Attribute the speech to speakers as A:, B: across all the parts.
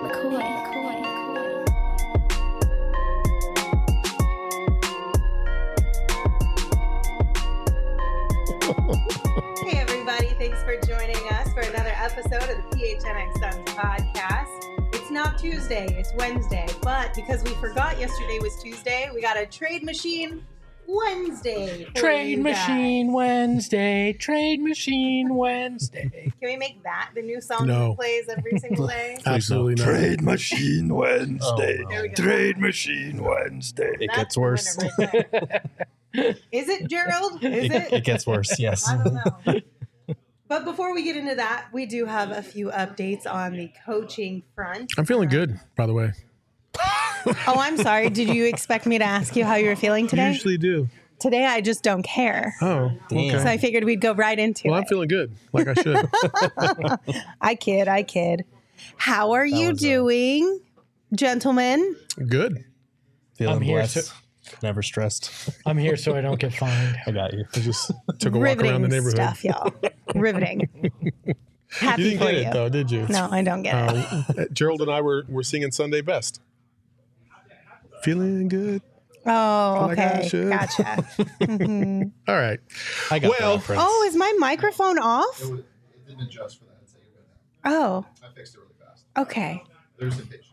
A: Hey everybody, thanks for joining us for another episode of the PHNX Suns podcast. It's not Tuesday, it's Wednesday, but because we forgot yesterday was Tuesday, we got a Trade Machine Wednesday.
B: Trade Machine Wednesday. Trade Machine Wednesday.
A: Can we make that the new song that plays every single day?
C: Absolutely not.
D: Trade Machine Wednesday.
A: There we go.
D: Trade Machine Wednesday.
E: It
A: That's
E: gets
A: the
E: worse.
A: winner right there. Is it, Gerald? Is it?
E: It gets worse, yes.
A: I don't know. But before we get into that, we do have a few updates on the coaching front.
C: I'm feeling good, by the way.
A: Oh, I'm sorry. Did you expect me to ask you how you were feeling
C: You
A: today?
C: usually do.
A: Today, I just don't care.
C: Oh, okay.
A: So I figured we'd go right into
C: Well,
A: it.
C: I'm feeling good, like I should.
A: I kid. How are you doing, gentlemen?
C: Good.
E: Feeling
B: I'm here,
E: blessed. Never stressed.
B: I'm here so I don't get fined.
E: I got you.
C: I just took a walk around the neighborhood.
A: Stuff, y'all. Riveting. Happy
C: You didn't
A: for
C: get
A: you.
C: it, though, did you?
A: No, I don't get it.
C: Gerald and I were singing Sunday Best. Feeling good.
A: Oh,
C: like I
A: okay.
C: should.
A: Gotcha.
C: All right.
E: I got
C: Well-
E: the reference.
A: Oh, is my microphone off?
F: It didn't adjust for that. It's like you're good now.
A: Oh,
F: I fixed it really fast.
A: okay.
F: There's the patient.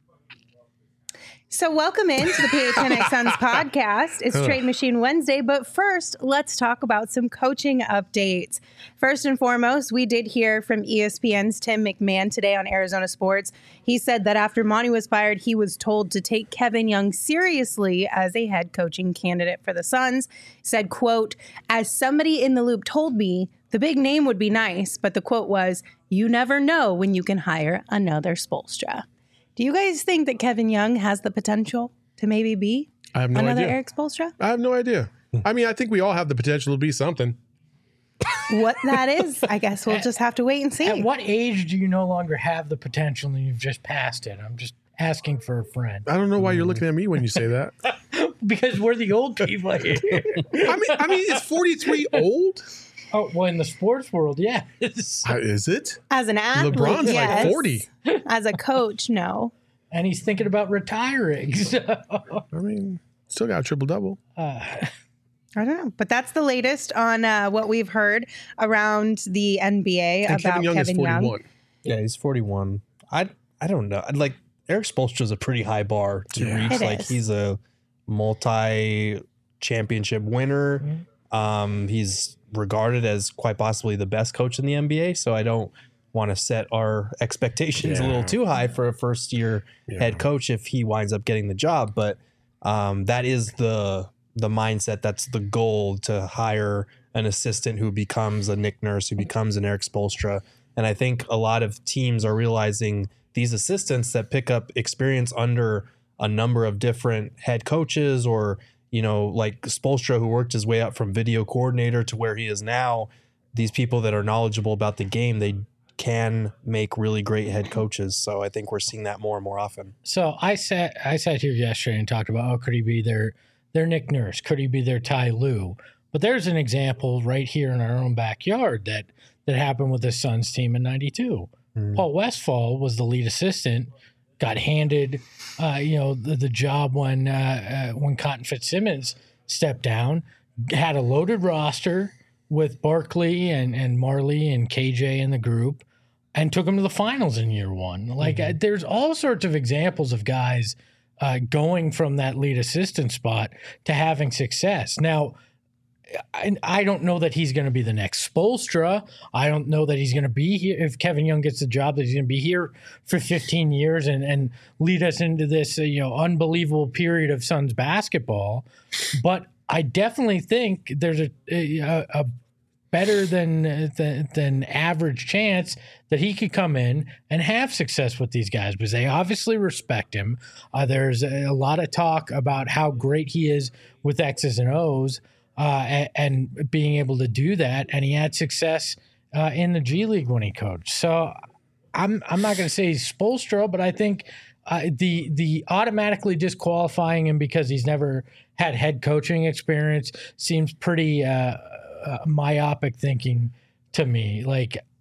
A: So welcome into the PHNX Suns podcast. It's Trade Machine Wednesday, but first, let's talk about some coaching updates. First and foremost, we did hear from ESPN's Tim McMahon today on Arizona Sports. He said that after Monty was fired, he was told to take Kevin Young seriously as a head coaching candidate for the Suns. He said, quote, "As somebody in the loop told me, the big name would be nice, but the quote was, you never know when you can hire another Spoelstra." Do you guys think that Kevin Young has the potential to maybe be
C: I have no
A: another
C: idea.
A: Eric Spoelstra?
C: I have no idea. I mean, I think we all have the potential to be something.
A: What that is, I guess we'll just have to wait and see.
B: At what age do you no longer have the potential and you've just passed it? I'm just asking for a friend.
C: I don't know why you're looking at me when you say that.
B: Because we're the old people here.
C: I mean, is 43 old?
B: Oh, well, in the sports world, yes.
C: Is it?
A: As an athlete,
C: LeBron's
A: yes.
C: like 40.
A: As a coach, no.
B: And he's thinking about retiring. So.
C: I mean, still got a triple-double.
A: I don't know. But that's the latest on what we've heard around the NBA
C: And
A: about
C: Kevin Young is 41.
E: Yeah, he's 41. I don't know. Like Eric Spoelstra's a pretty high bar to reach.
A: It
E: Like
A: is.
E: he's a multi-championship winner. He's regarded as quite possibly the best coach in the NBA. So I don't want to set our expectations a little too high for a first-year head coach if he winds up getting the job. But that is the mindset. That's the goal, to hire an assistant who becomes a Nick Nurse, who becomes an Eric Spoelstra. And I think a lot of teams are realizing these assistants that pick up experience under a number of different head coaches, or, you know, like Spoelstra, who worked his way up from video coordinator to where he is now, these people that are knowledgeable about the game, they can make really great head coaches. So I think we're seeing that more and more often.
B: So I sat here yesterday and talked about, oh, could he be their Nick Nurse? Could he be their Ty Lue? But there's an example right here in our own backyard that happened with the Suns team in '92. Paul Westphal was the lead assistant, got handed the job when Cotton Fitzsimmons stepped down, had a loaded roster with Barkley and Marley and KJ in the group, and took them to the finals in year one. Like there's all sorts of examples of guys going from that lead assistant spot to having success. Now, I don't know that he's going to be the next Spoelstra. I don't know that he's going to be here. If Kevin Young gets the job, that he's going to be here for 15 years and lead us into this unbelievable period of Suns basketball. But I definitely think there's a better than average chance that he could come in and have success with these guys, because they obviously respect him. There's a lot of talk about how great he is with X's and O's. And being able to do that, and he had success in the G League when he coached. So I'm not going to say he's Spoelstra, but I think the automatically disqualifying him because he's never had head coaching experience seems pretty myopic thinking to me. Like,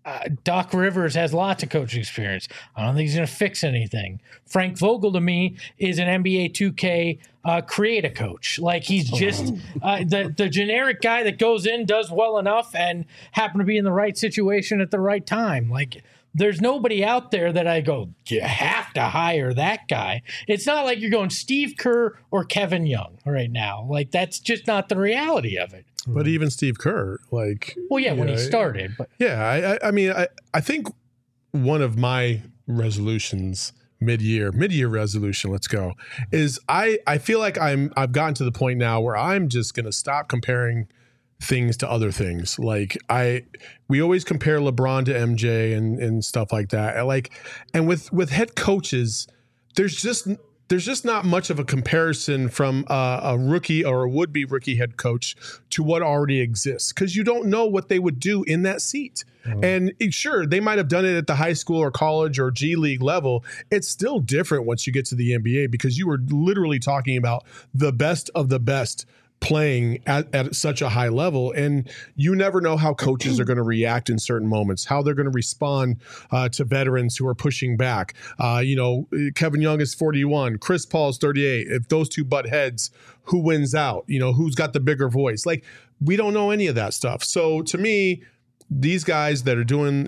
B: Doc Rivers has lots of coaching experience. I don't think he's going to fix anything. Frank Vogel, to me, is an NBA 2K create a coach. Like, he's just the generic guy that goes in, does well enough, and happen to be in the right situation at the right time. Like, there's nobody out there that I go, you have to hire that guy. It's not like you're going Steve Kerr or Kevin Young right now. Like, that's just not the reality of it.
C: But even Steve Kerr, like,
B: well, yeah, when he started, but
C: yeah, I mean, I think one of my resolutions mid-year resolution, let's go, is I feel like I've gotten to the point now where I'm just going to stop comparing things to other things. Like, we always compare LeBron to MJ and stuff like that. And with head coaches, there's just not much of a comparison from a rookie or a would-be rookie head coach to what already exists, because you don't know what they would do in that seat. And sure, they might have done it at the high school or college or G League level. It's still different once you get to the NBA, because you were literally talking about the best of the best playing at such a high level, and you never know how coaches are going to react in certain moments, how they're going to respond to veterans who are pushing back. Kevin Young is 41, Chris Paul is 38. If those two butt heads, who wins out? Who's got the bigger voice? Like, we don't know any of that stuff. So to me, these guys that are doing,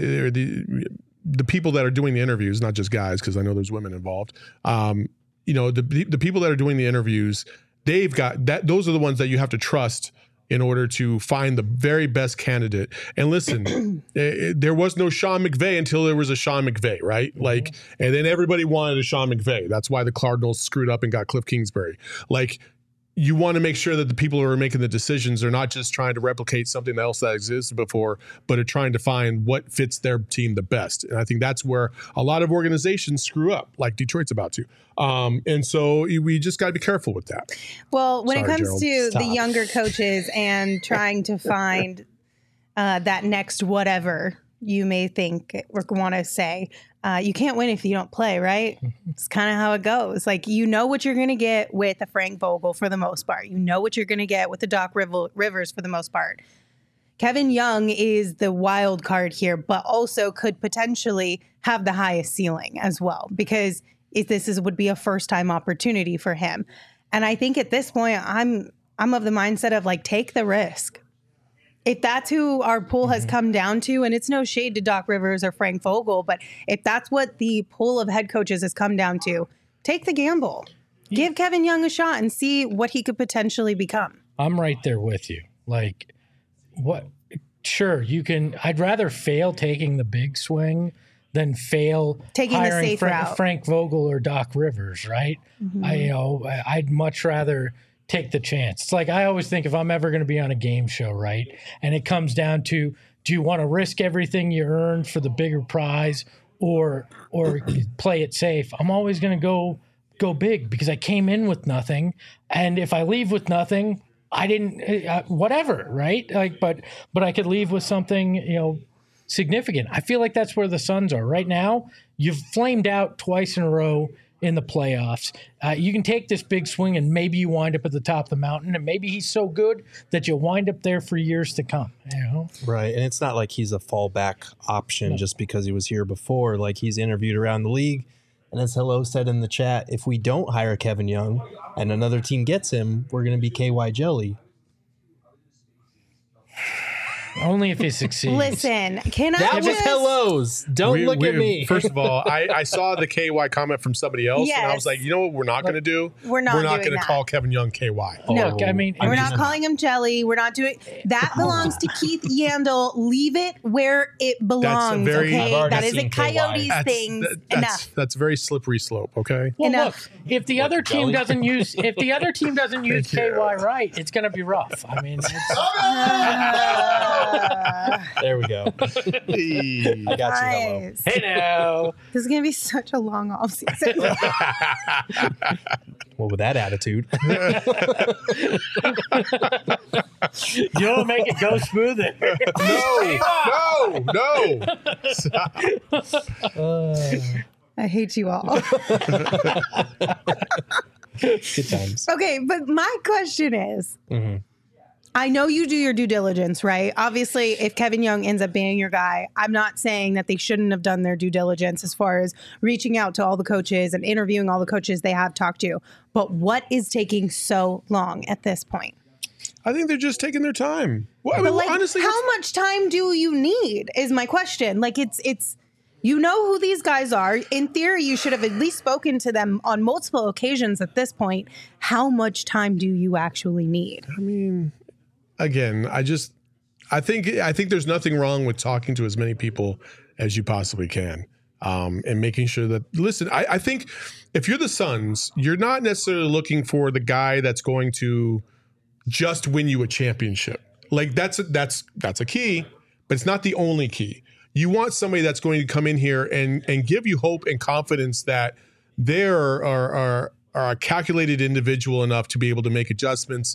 C: the people that are doing the interviews, not just guys, because I know there's women involved. The people that are doing the interviews, they've got that. Those are the ones that you have to trust in order to find the very best candidate. And listen, there was no Sean McVay until there was a Sean McVay, right? Like, and then everybody wanted a Sean McVay. That's why the Cardinals screwed up and got Cliff Kingsbury. Like, you want to make sure that the people who are making the decisions are not just trying to replicate something else that existed before, but are trying to find what fits their team the best. And I think that's where a lot of organizations screw up, like Detroit's about to. And so we just got to be careful with that.
A: Well, when it comes
C: Gerald.
A: to the younger coaches and trying to find that next whatever you may think or want to say, you can't win if you don't play, right? It's kind of how it goes. Like, you know what you're going to get with a Frank Vogel for the most part. You know what you're going to get with the Doc Rivers for the most part. Kevin Young is the wild card here, but also could potentially have the highest ceiling as well, because this would be a first-time opportunity for him. And I think at this point, I'm of the mindset of, like, take the risk. If that's who our pool has come down to, and it's no shade to Doc Rivers or Frank Vogel, but if that's what the pool of head coaches has come down to, take the gamble. Give Kevin Young a shot and see what he could potentially become.
B: I'm right there with you. Like, what? Sure, you can. I'd rather fail taking the big swing than fail
A: taking the safe route.
B: Frank Vogel or Doc Rivers, right? I'd much rather take the chance. It's like, I always think, if I'm ever going to be on a game show, right, and it comes down to, do you want to risk everything you earn for the bigger prize or play it safe? I'm always going to go big, because I came in with nothing, and if I leave with nothing, I didn't whatever, right? Like, but I could leave with something, significant. I feel like that's where the Suns are right now. You've flamed out twice in a row in the playoffs. You can take this big swing, and maybe you wind up at the top of the mountain, and maybe he's so good that you'll wind up there for years to come.
E: Right. And it's not like he's a fallback option just because he was here before. Like, he's interviewed around the league, and as Hello said in the chat, if we don't hire Kevin Young and another team gets him, we're going to be KY jelly.
B: Only if he succeeds.
A: Listen,
E: that was Hello's. Don't look at me.
C: First of all, I saw the KY comment from somebody else, and I was like, you know what we're not going to do?
A: We're not
C: going to call Kevin Young KY.
A: No,
B: Look, I mean,
A: we're not calling him jelly. We're not doing that. Belongs to Keith Yandel. Leave it where it belongs. That is a Coyotes thing. Enough.
C: That's very slippery slope. Okay.
B: Well, look, if the other team doesn't use KY right, it's going to be rough. I mean,
E: there we go. I got you, Hello.
B: Hey now.
A: This is going to be such a long off season.
E: Well, with that attitude.
B: You'll make it go smoother.
C: No.
A: I hate you all.
E: Good times.
A: Okay, but my question is, I know you do your due diligence, right? Obviously, if Kevin Young ends up being your guy, I'm not saying that they shouldn't have done their due diligence as far as reaching out to all the coaches and interviewing all the coaches they have talked to. But what is taking so long at this point?
C: I think they're just taking their time. Well, I
A: But
C: mean,
A: like,
C: honestly,
A: how much time do you need is my question. Like, it's you know who these guys are. In theory, you should have at least spoken to them on multiple occasions at this point. How much time do you actually need?
C: I mean, again, I think there's nothing wrong with talking to as many people as you possibly can, and making sure that, listen, I think if you're the Suns, you're not necessarily looking for the guy that's going to just win you a championship. Like that's a key, but it's not the only key. You want somebody that's going to come in here and give you hope and confidence that they are a calculated individual enough to be able to make adjustments,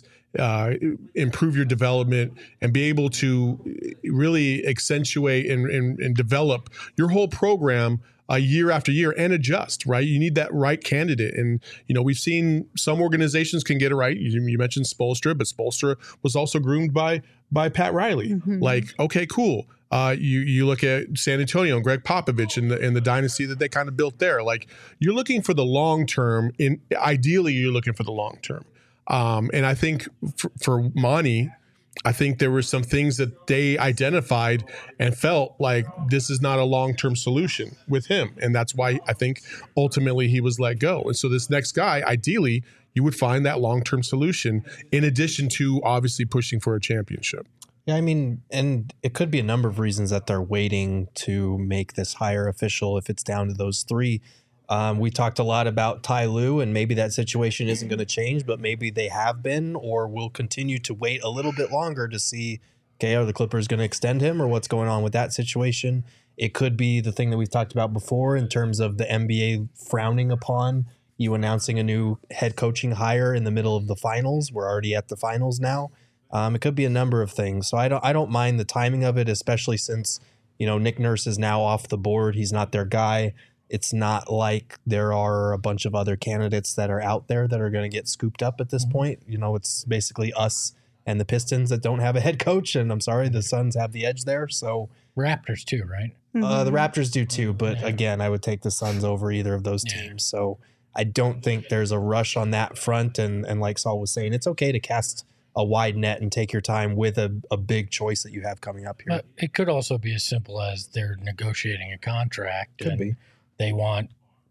C: improve your development, and be able to really accentuate and develop your whole program year after year and adjust, right? You need that right candidate. And, we've seen some organizations can get it right. You mentioned Spoelstra, but Spoelstra was also groomed by Pat Riley.
A: Mm-hmm.
C: Like, okay, cool. You look at San Antonio and Greg Popovich and the dynasty that they kind of built there. Like, you're looking for the long term. Ideally, you're looking for the long term. And I think for Monty, I think there were some things that they identified and felt like this is not a long-term solution with him. And that's why I think ultimately he was let go. And so this next guy, ideally, you would find that long-term solution in addition to obviously pushing for a championship.
E: Yeah, I mean, and it could be a number of reasons that they're waiting to make this hire official if it's down to those three. We talked a lot about Ty Lue, and maybe that situation isn't going to change, but maybe they have been or will continue to wait a little bit longer to see, okay, are the Clippers going to extend him or what's going on with that situation? It could be the thing that we've talked about before in terms of the NBA frowning upon you announcing a new head coaching hire in the middle of the finals. We're already at the finals now. It could be a number of things. So I don't mind the timing of it, especially since, Nick Nurse is now off the board. He's not their guy. It's not like there are a bunch of other candidates that are out there that are going to get scooped up at this point. It's basically us and the Pistons that don't have a head coach. And I'm sorry, the Suns have the edge there. So
B: Raptors too, right?
E: The Raptors do too. But again, I would take the Suns over either of those teams. So I don't think there's a rush on that front. And like Saul was saying, it's okay to cast a wide net and take your time with a big choice that you have coming up here.
B: But it could also be as simple as they're negotiating a contract.
E: Could be.
B: They want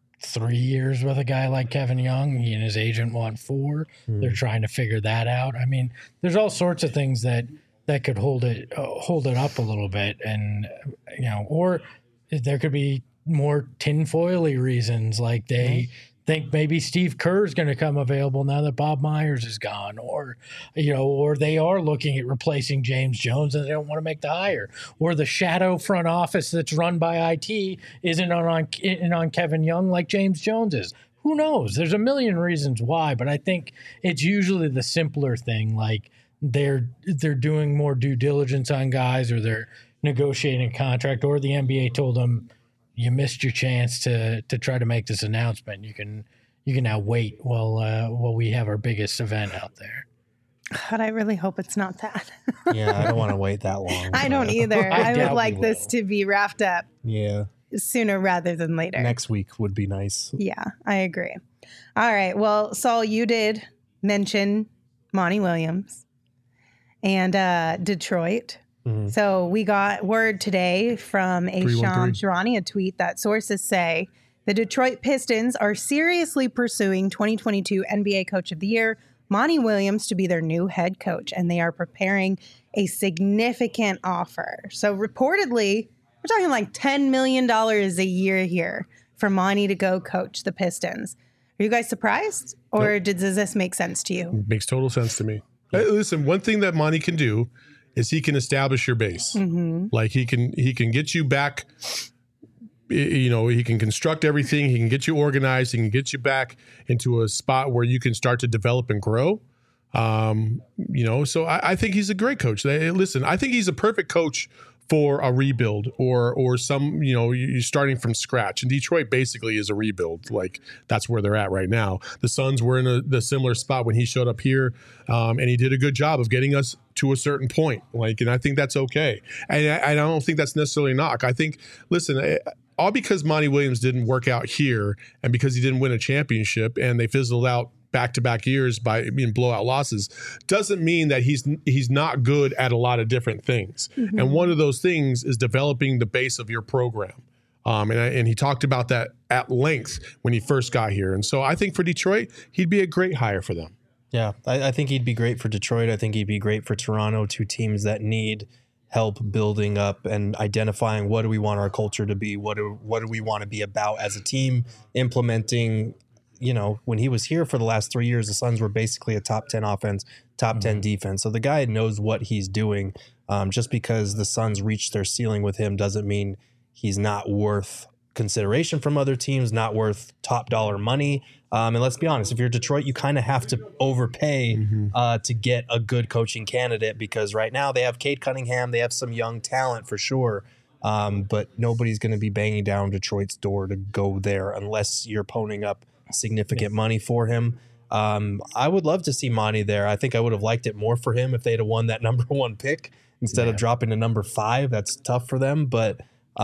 B: 3 years with a guy like Kevin Young. He and his agent want 4. They're trying to figure that out. I mean, there's all sorts of things that could hold it up a little bit, and or there could be more tinfoily reasons, like they think maybe Steve Kerr is going to come available now that Bob Myers is gone, or they are looking at replacing James Jones and they don't want to make the hire, or the shadow front office that's run by IT isn't on Kevin Young like James Jones is. Who knows? There's a million reasons why, but I think it's usually the simpler thing, like they're doing more due diligence on guys, or they're negotiating a contract, or the NBA told them, you missed your chance to try to make this announcement. You can now wait while we have our biggest event out there.
A: But I really hope it's not that.
E: Yeah, I don't want to wait that long.
A: I don't either. I would like this
B: will.
A: to be wrapped up sooner rather than later.
E: Next week would be nice.
A: Yeah, I agree. All right. Well, Saul, you did mention Monty Williams and Detroit. So we got word today from a Shams Charania, a tweet that sources say the Detroit Pistons are seriously pursuing 2022 NBA Coach of the Year, Monty Williams, to be their new head coach, and they are preparing a significant offer. So reportedly, we're talking like $10 million a year here for Monty to go coach the Pistons. Are you guys surprised, or does this make sense to you?
C: Makes total sense to me. Listen, one thing that Monty can do is he can establish your base. Like he can get you back. He can construct everything. He can get you organized. He can get you back into a spot where you can start to develop and grow. So I think he's a great coach. Listen, I think he's a perfect coach for a rebuild or some, you're starting from scratch. And Detroit basically is a rebuild. Like that's where they're at right now. The Suns were in the similar spot when he showed up here, and he did a good job of getting us to a certain point. And I think that's okay. And I don't think that's necessarily a knock. I think, listen, all because Monty Williams didn't work out here and because he didn't win a championship and they fizzled out back-to-back years by being blowout losses doesn't mean that he's not good at a lot of different things. Mm-hmm. And one of those things is developing the base of your program. And he talked about that at length when he first got here. And so I think for Detroit, he'd be a great hire for them.
E: Yeah, I think he'd be great for Detroit. I think he'd be great for Toronto, two teams that need help building up and identifying what do we want our culture to be, what do we want to be about as a team, implementing. When he was here for the last 3 years, the Suns were basically a top 10 offense, top 10 defense. So the guy knows what he's doing. Just because the Suns reached their ceiling with him doesn't mean he's not worth consideration from other teams, not worth top dollar money. And let's be honest, if you're Detroit, you kind of have to overpay to get a good coaching candidate because right now they have Cade Cunningham. They have some young talent for sure. But nobody's going to be banging down Detroit's door to go there unless you're ponying up significant money for him. I would love to see Monty there. I think I would have liked it more for him if they'd have won that number 1 pick instead of dropping to number 5. That's tough for them, but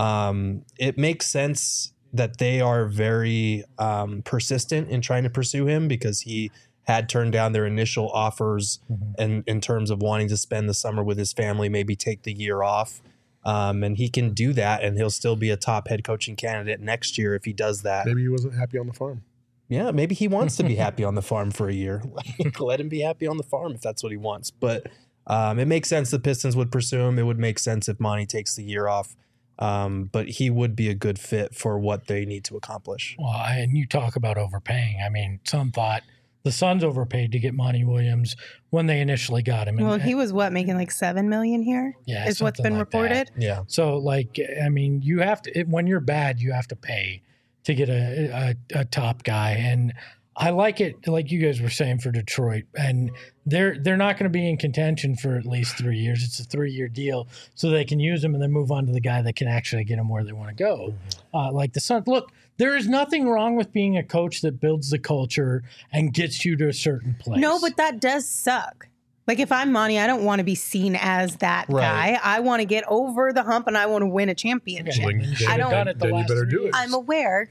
E: it makes sense that they are very persistent in trying to pursue him because he had turned down their initial offers and in terms of wanting to spend the summer with his family, maybe take the year off. And he can do that and he'll still be a top head coaching candidate next year if he does that.
C: Maybe he wasn't happy on the farm.
E: Yeah, maybe he wants to be happy on the farm for a year. Let him be happy on the farm if that's what he wants. But it makes sense the Pistons would pursue him. It would make sense if Monty takes the year off. But he would be a good fit for what they need to accomplish.
B: Well, and you talk about overpaying. I mean, some thought the Suns overpaid to get Monty Williams when they initially got him.
A: Well, he was making like $7 million here?
B: Yeah,
A: is what's been reported.
B: That. Yeah. So, you have to when you're bad, you have to pay to get a top guy, and I like it, like you guys were saying, for Detroit, and they're not going to be in contention for at least 3 years. It's a 3-year deal, so they can use him and then move on to the guy that can actually get them where they want to go. Like the Suns. Look, there is nothing wrong with being a coach that builds the culture and gets you to a certain place.
A: No, but that does suck. Like if I'm Monty, I don't want to be seen as that guy. I want to get over the hump and I want to win a championship.
C: I don't. Then you better do it.
A: I'm aware.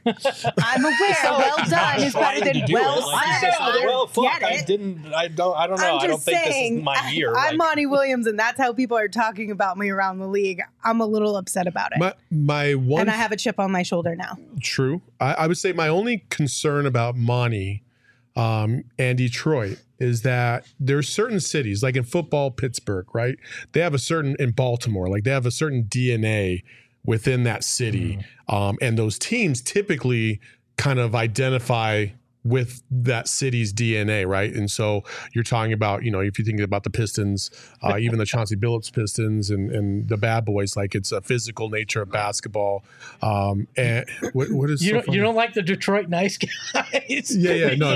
A: Well done is better than well said.
E: Well, fuck, I don't know. I don't think this is my year.
A: I'm Monty Williams, and that's how people are talking about me around the league. I'm a little upset about it. And I have a chip on my shoulder now.
C: True. I would say my only concern about Monty and Detroit is that there's certain cities, like in football, Pittsburgh, right? They have a certain, in Baltimore, like they have a certain DNA within that city. And those teams typically kind of identify with that city's DNA, right? And so you're talking about, if you think about the Pistons, even the Chauncey Billups Pistons and the Bad Boys, like it's a physical nature of basketball. And what is
B: you don't like the Detroit nice guys?
C: Yeah. No.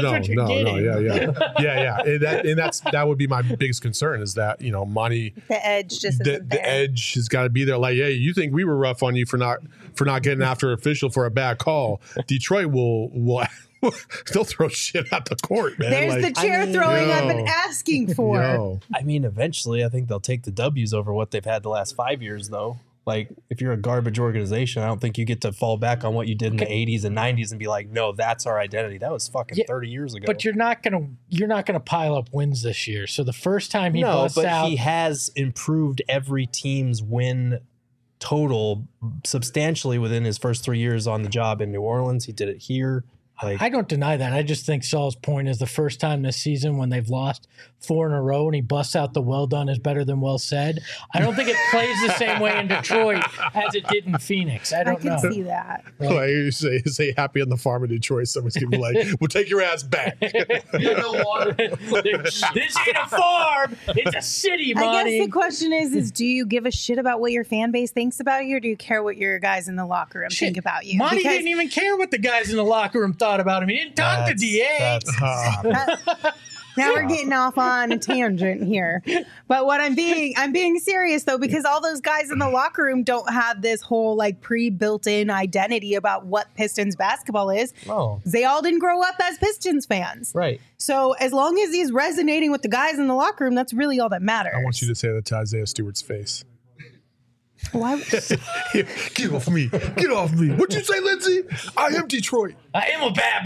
C: Yeah. And that would be my biggest concern is that Monty,
A: the edge just isn't there.
C: The edge has got to be there. Like, hey, you think we were rough on you for not getting after an official for a bad call? Detroit will. They'll throw shit out the court, man.
A: There's the chair throwing up and asking for.
E: I mean, eventually, I think they'll take the W's over what they've had the last 5 years, though. Like, if you're a garbage organization, I don't think you get to fall back on what you did in the 80s and 90s and be like, no, that's our identity. That was fucking 30 years ago.
B: But you're not gonna pile up wins this year. So the first time he busts out,
E: he has improved every team's win total substantially within his first 3 years on the job in New Orleans. He did it here.
B: I don't deny that. I just think Saul's point is the first time this season when they've lost 4 in a row and he busts out the well done is better than well said. I don't think it plays the same way in Detroit as it did in Phoenix. I can
A: see that.
C: Right? Like you say happy on the farm in Detroit. Someone's going to be like, we'll take your ass back.
B: This ain't a farm. It's a city, Monty.
A: I guess the question is do you give a shit about what your fan base thinks about you, or do you care what your guys in the locker room think about you?
B: Monty didn't even care what the guys in the locker room thought about him. He didn't talk to DA.
A: Now we're getting off on a tangent here. But what I'm being serious though, because all those guys in the locker room don't have this whole like pre-built-in identity about what Pistons basketball is.
E: Oh.
A: They all didn't grow up as Pistons fans.
E: Right.
A: So as long as he's resonating with the guys in the locker room, that's really all that matters.
C: I want you to say that to Isaiah Stewart's face.
A: Why?
C: Here, get off me. Get off me. What'd you say, Lindsay? I am Detroit.
B: I am a bad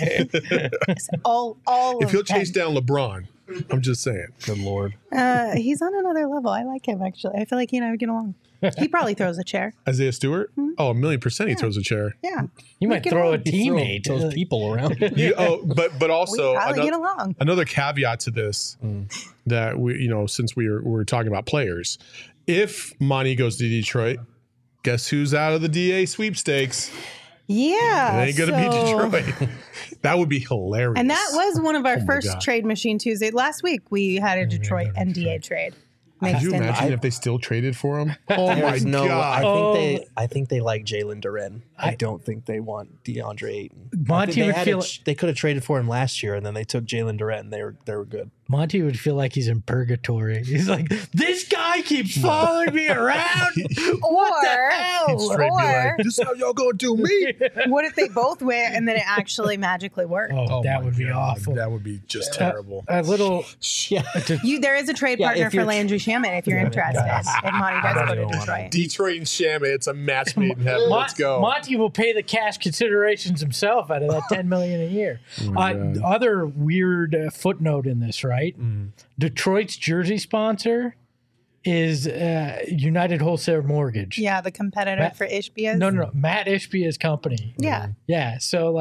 B: boy.
A: all
C: If he'll
A: of
C: chase down LeBron, I'm just saying.
E: Good Lord.
A: he's on another level. I like him actually. I feel like he and I would get along. He probably throws a chair.
C: Isaiah Stewart? Oh, 1,000,000% he throws a chair.
A: Yeah.
B: You might
A: get
B: throw a
A: along.
B: teammate.
E: Those people around.
C: But also
A: We probably get along.
C: another caveat to this that since we're talking about players, if Monty goes to Detroit, guess who's out of the DA sweepstakes?
A: Yeah.
C: It ain't gonna be Detroit. That would be hilarious.
A: And that was one of our
C: my
A: first
C: God.
A: Trade Machine Tuesday. Last week we had a Detroit NDA trade.
C: Could
A: Mixed
C: you
A: in.
C: imagine if they still traded for him? Oh my
E: There's no.
C: God!
E: I think they like Jalen Duren. I don't think they want DeAndre Ayton.
B: Monty would feel
E: they could have traded for him last year, and then they took Jalen Duren. And they were good.
B: Monty would feel like he's in purgatory. He's like, this guy keeps following me around. What the hell?
C: Straight be
A: Or
C: like, this is how y'all gonna do me?
A: what if they both went and then it actually magically worked?
B: Oh, that
C: my
B: would be
C: God,
B: awful.
C: That would be just terrible.
B: A little.
E: Yeah.
A: There is a trade
E: Yeah,
A: partner
E: if
A: for
E: you're-
A: Landry Shamet if you're interested. If Monty does go to Detroit.
C: Detroit and Shamet, it's a match made in heaven. Let's go.
B: Monty will pay the cash considerations himself out of that $10 million a year. Other weird footnote in this, right? Detroit's jersey sponsor is United Wholesale Mortgage.
A: Yeah, the competitor for Ishbia's.
B: No. Matt Ishbia's company.
A: Yeah.
B: Yeah. So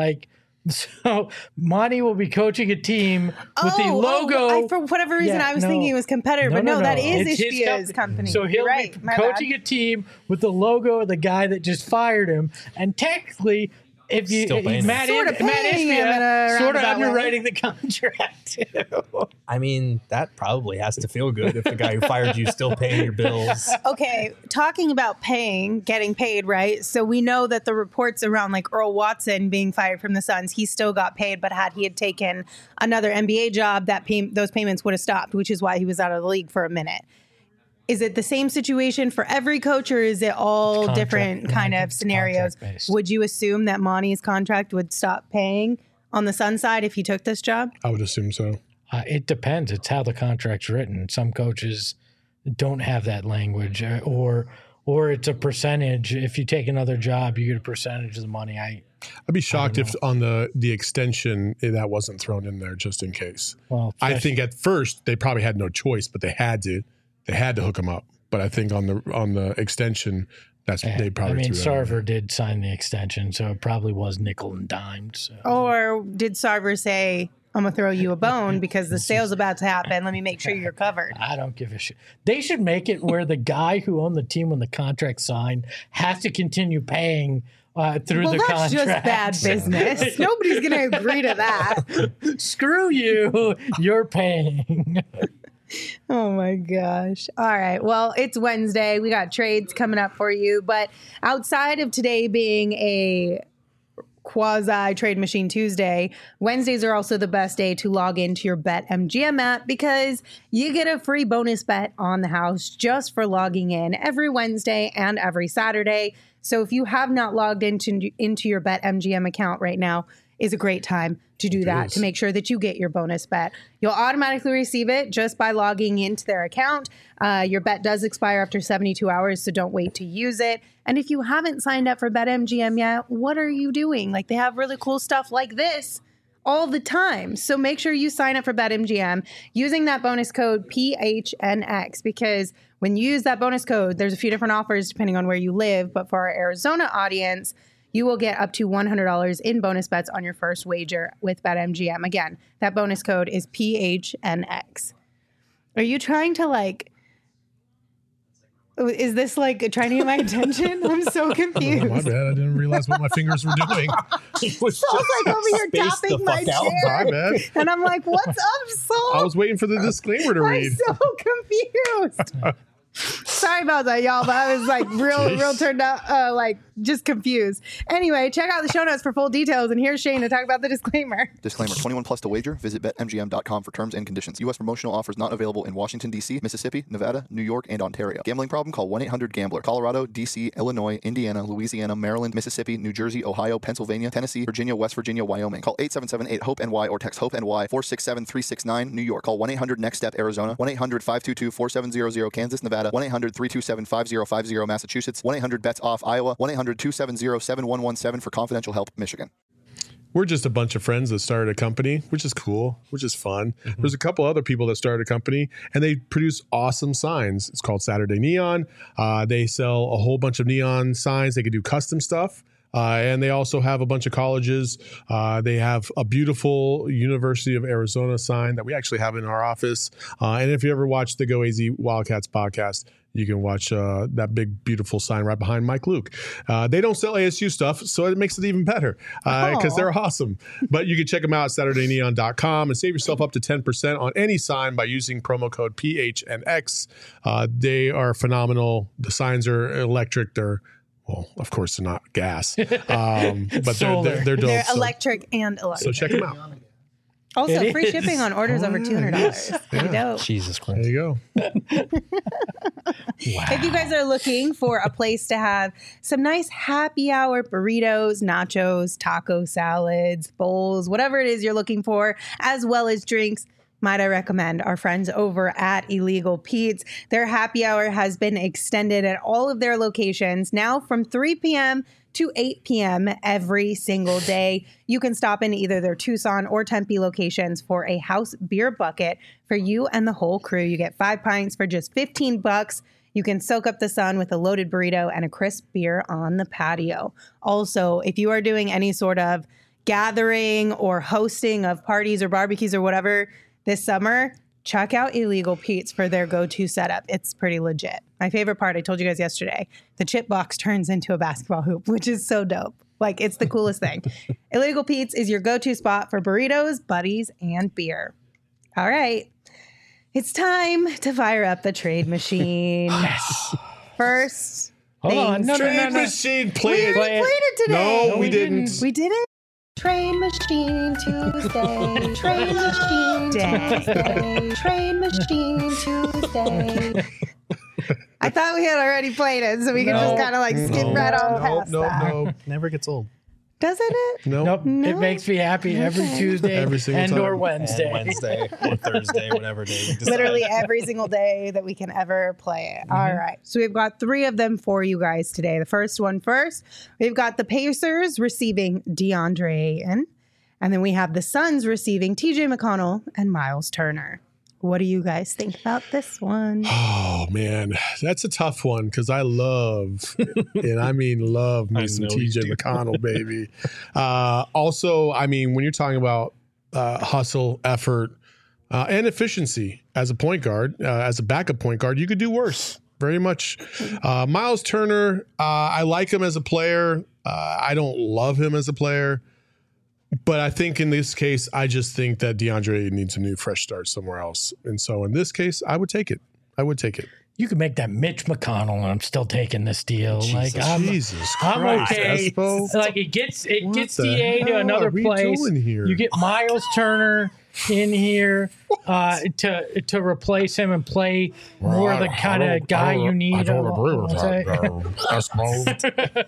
B: Monty will be coaching a team with the logo.
A: For whatever reason, I was thinking it was competitor, but no, that is
B: It's his
A: Ishbia's company.
B: So he'll
A: You're right.
B: be
A: My
B: coaching
A: bad.
B: a team with the logo of the guy that just fired him, and technically, if you
E: Still paying him.
B: Matt
A: Sorta paying him in a
B: Ishbia sort of
A: roundabout way.
B: underwriting the contract too.
E: I mean, that probably has to feel good if the guy who fired you is still paying your bills.
A: Okay, talking about getting paid, right? So we know that the reports around like Earl Watson being fired from the Suns, he still got paid, but had he had taken another NBA job, those payments would have stopped, which is why he was out of the league for a minute. Is it the same situation for every coach, or is it all different kind of scenarios?
B: contract-based.
A: Would you assume that Monty's contract would stop paying on the Sun side if he took this job?
C: I would assume so.
B: It depends. It's how the contract's written. Some coaches don't have that language, or it's a percentage. If you take another job, you get a percentage of the money.
C: I'd be shocked if on the extension that wasn't thrown in there just in case.
B: Well,
C: I think at first they probably had no choice, but they had to hook him up. But I think on the extension, they probably.
B: I mean,
C: threw that in there.
B: Sarver did sign the extension, so it probably was nickel and dimed. So.
A: Or did Sarver say, I'm going to throw you a bone because the sale's about to happen. Let me make sure you're covered.
B: I don't give a shit. They should make it where the guy who owned the team when the contract signed has to continue paying through
A: Well,
B: the
A: that's
B: contract.
A: just bad business. Nobody's going to agree to that.
B: Screw you. You're paying.
A: Oh my gosh. All right. Well, it's Wednesday. We got trades coming up for you. But outside of today being a quasi Trade Machine Tuesday, Wednesdays are also the best day to log into your BetMGM app because you get a free bonus bet on the house just for logging in every Wednesday and every Saturday. So if you have not logged into your BetMGM account right now, is a great time to do that, to make sure that you get your bonus bet. You'll automatically receive it just by logging into their account. Your bet does expire after 72 hours, so don't wait to use it. And if you haven't signed up for BetMGM yet, what are you doing? Like, they have really cool stuff like this all the time. So make sure you sign up for BetMGM using that bonus code PHNX, because when you use that bonus code, there's a few different offers depending on where you live. But for our Arizona audience, you will get up to $100 in bonus bets on your first wager with BetMGM. Again, that bonus code is PHNX. Are you trying to is this trying to get my attention? I'm so confused.
C: Oh, my bad. I didn't realize what my fingers were doing.
E: It was
A: So I was like over here
E: spaced the
A: tapping my
E: fuck out.
A: chair.
C: My bad.
A: And I'm like, what's up, Saul?
C: I was waiting for the disclaimer to
A: I'm
C: read.
A: so confused. Sorry about that, y'all. But I was like real turned out, like just confused. Anyway, check out the show notes for full details. And here's Shane to talk about the disclaimer.
G: Disclaimer, 21 plus to wager. Visit BetMGM.com for terms and conditions. U.S. promotional offers not available in Washington, D.C., Mississippi, Nevada, New York, and Ontario. Gambling problem? Call 1-800-GAMBLER. Colorado, D.C., Illinois, Indiana, Louisiana, Maryland, Mississippi, New Jersey, Ohio, Pennsylvania, Tennessee, Virginia, West Virginia, Wyoming. Call 877-8-HOPE-NY or text HOPE-NY 467-369. New York. Call 1-800-NEXT-STEP, Arizona. 1-800-522-4700, Kansas, Nevada. 1-800-327-5050, Massachusetts. 1-800-BETS-OFF, Iowa. 1-800-270-7117 for confidential help, Michigan.
C: We're just a bunch of friends that started a company, which is cool, which is fun. There's a couple other people that started a company, and they produce awesome signs. It's called Saturday Neon. They sell a whole bunch of neon signs. They can do custom stuff. And they also have a bunch of colleges. They have a beautiful University of Arizona sign that we actually have in our office. And if you ever watch the Go AZ Wildcats podcast, you can watch that big, beautiful sign right behind Mike Luke. They don't sell ASU stuff, so it makes it even better because they're awesome. But you can check them out at SaturdayNeon.com and save yourself up to 10% on any sign by using promo code PHNX. They are phenomenal. The signs are electric. Well, of course, they're not gas, but they're dope.
A: They're electric and electric.
C: So check them out.
A: Also, free shipping on orders over $200. Pretty dope.
E: Jesus Christ.
C: There you go.
A: If you guys are looking for a place to have some nice happy hour burritos, nachos, taco salads, bowls, whatever it is you're looking for, as well as drinks, might I recommend our friends over at Illegal Pete's. Their happy hour has been extended at all of their locations now from 3 p.m. to 8 p.m. every single day. You can stop in either their Tucson or Tempe locations for a house beer bucket for you and the whole crew. You get 5 pints for just $15. You can soak up the sun with a loaded burrito and a crisp beer on the patio. Also, if you are doing any sort of gathering or hosting of parties or barbecues or whatever this summer, check out Illegal Pete's for their go-to setup. It's pretty legit. My favorite part, I told you guys yesterday, the chip box turns into a basketball hoop, which is so dope. Like, it's the coolest thing. Illegal Pete's is your go-to spot for burritos, buddies, and beer. All right. It's time to fire up the trade machine.
B: Yes.
A: First,
B: Hold on. No.
C: Trade machine, play
A: we already played it today.
C: No, we didn't.
A: We didn't? Train Machine Tuesday. Train Machine Tuesday. Train Machine Tuesday. I thought we had already played it, so we could just kind of like skip right on past that.
C: No.
E: Never gets old.
A: Doesn't it?
B: Nope. It makes me happy every Tuesday
C: Every single
B: and
C: time.
B: or Wednesday.
E: And Wednesday or Thursday, whatever day. we decide.
A: Literally every single day that we can ever play it. All right. So we've got 3 of them for you guys today. The first one first. We've got the Pacers receiving DeAndre Ayton. And then we have the Suns receiving TJ McConnell and Miles Turner. What do you guys think about this one?
C: Oh, man. That's a tough one because I love, and I mean love me some TJ McConnell, baby. Also, I mean, when you're talking about hustle, effort, and efficiency as a point guard, as a backup point guard, you could do worse. Very much. Miles Turner, I like him as a player. I don't love him as a player. But I think in this case, I just think that DeAndre needs a new fresh start somewhere else. And so in this case, I would take it.
B: You could make that Mitch McConnell, and I'm still taking this deal.
C: Jesus
B: I'm
C: Christ,
B: okay.
C: Espo.
B: Like it gets
C: What the
B: DA to
C: hell
B: another
C: are we
B: place.
C: doing here?
B: You get Miles Turner in here to replace him and play more the kind of guy you need.
D: I don't agree with that, Espo.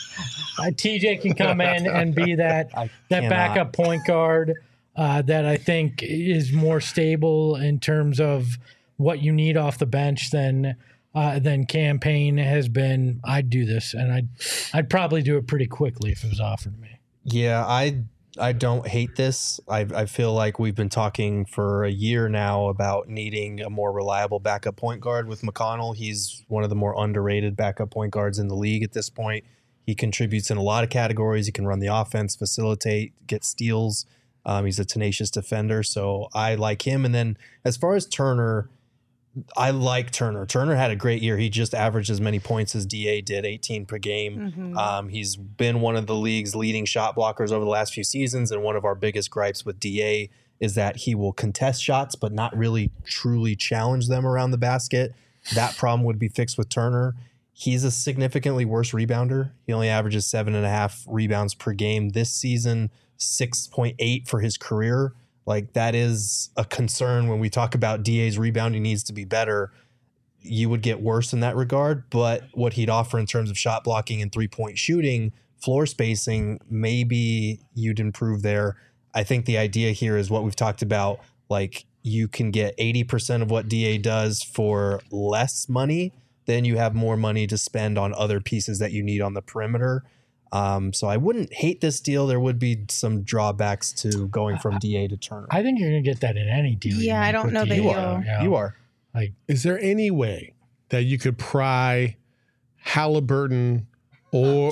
B: TJ can come in and be that backup point guard that I think is more stable in terms of what you need off the bench than Campaign has been. I'd do this, and I'd probably do it pretty quickly if it was offered to me.
E: Yeah, I don't hate this. I feel like we've been talking for a year now about needing a more reliable backup point guard with McConnell. He's one of the more underrated backup point guards in the league at this point. He contributes in a lot of categories. He can run the offense, facilitate, get steals. He's a tenacious defender, so I like him. And then as far as Turner, I like Turner. Turner had a great year. He just averaged as many points as DA did, 18 per game. He's been one of the league's leading shot blockers over the last few seasons, and one of our biggest gripes with DA is that he will contest shots but not really truly challenge them around the basket. that problem would be fixed with Turner. He's a significantly worse rebounder. He only averages 7.5 rebounds per game this season, 6.8 for his career. Like, that is a concern when we talk about DA's rebounding needs to be better. You would get worse in that regard, but what he'd offer in terms of shot blocking and 3-point shooting, floor spacing, maybe you'd improve there. I think the idea here is what we've talked about. Like, you can get 80% of what DA does for less money, then you have more money to spend on other pieces that you need on the perimeter. So I wouldn't hate this deal. There would be some drawbacks to going from DA to Turner.
B: I think you're going to get that in any deal.
A: Yeah, I don't know that
E: You are.
B: Like,
C: Is there any way that you could pry Halliburton or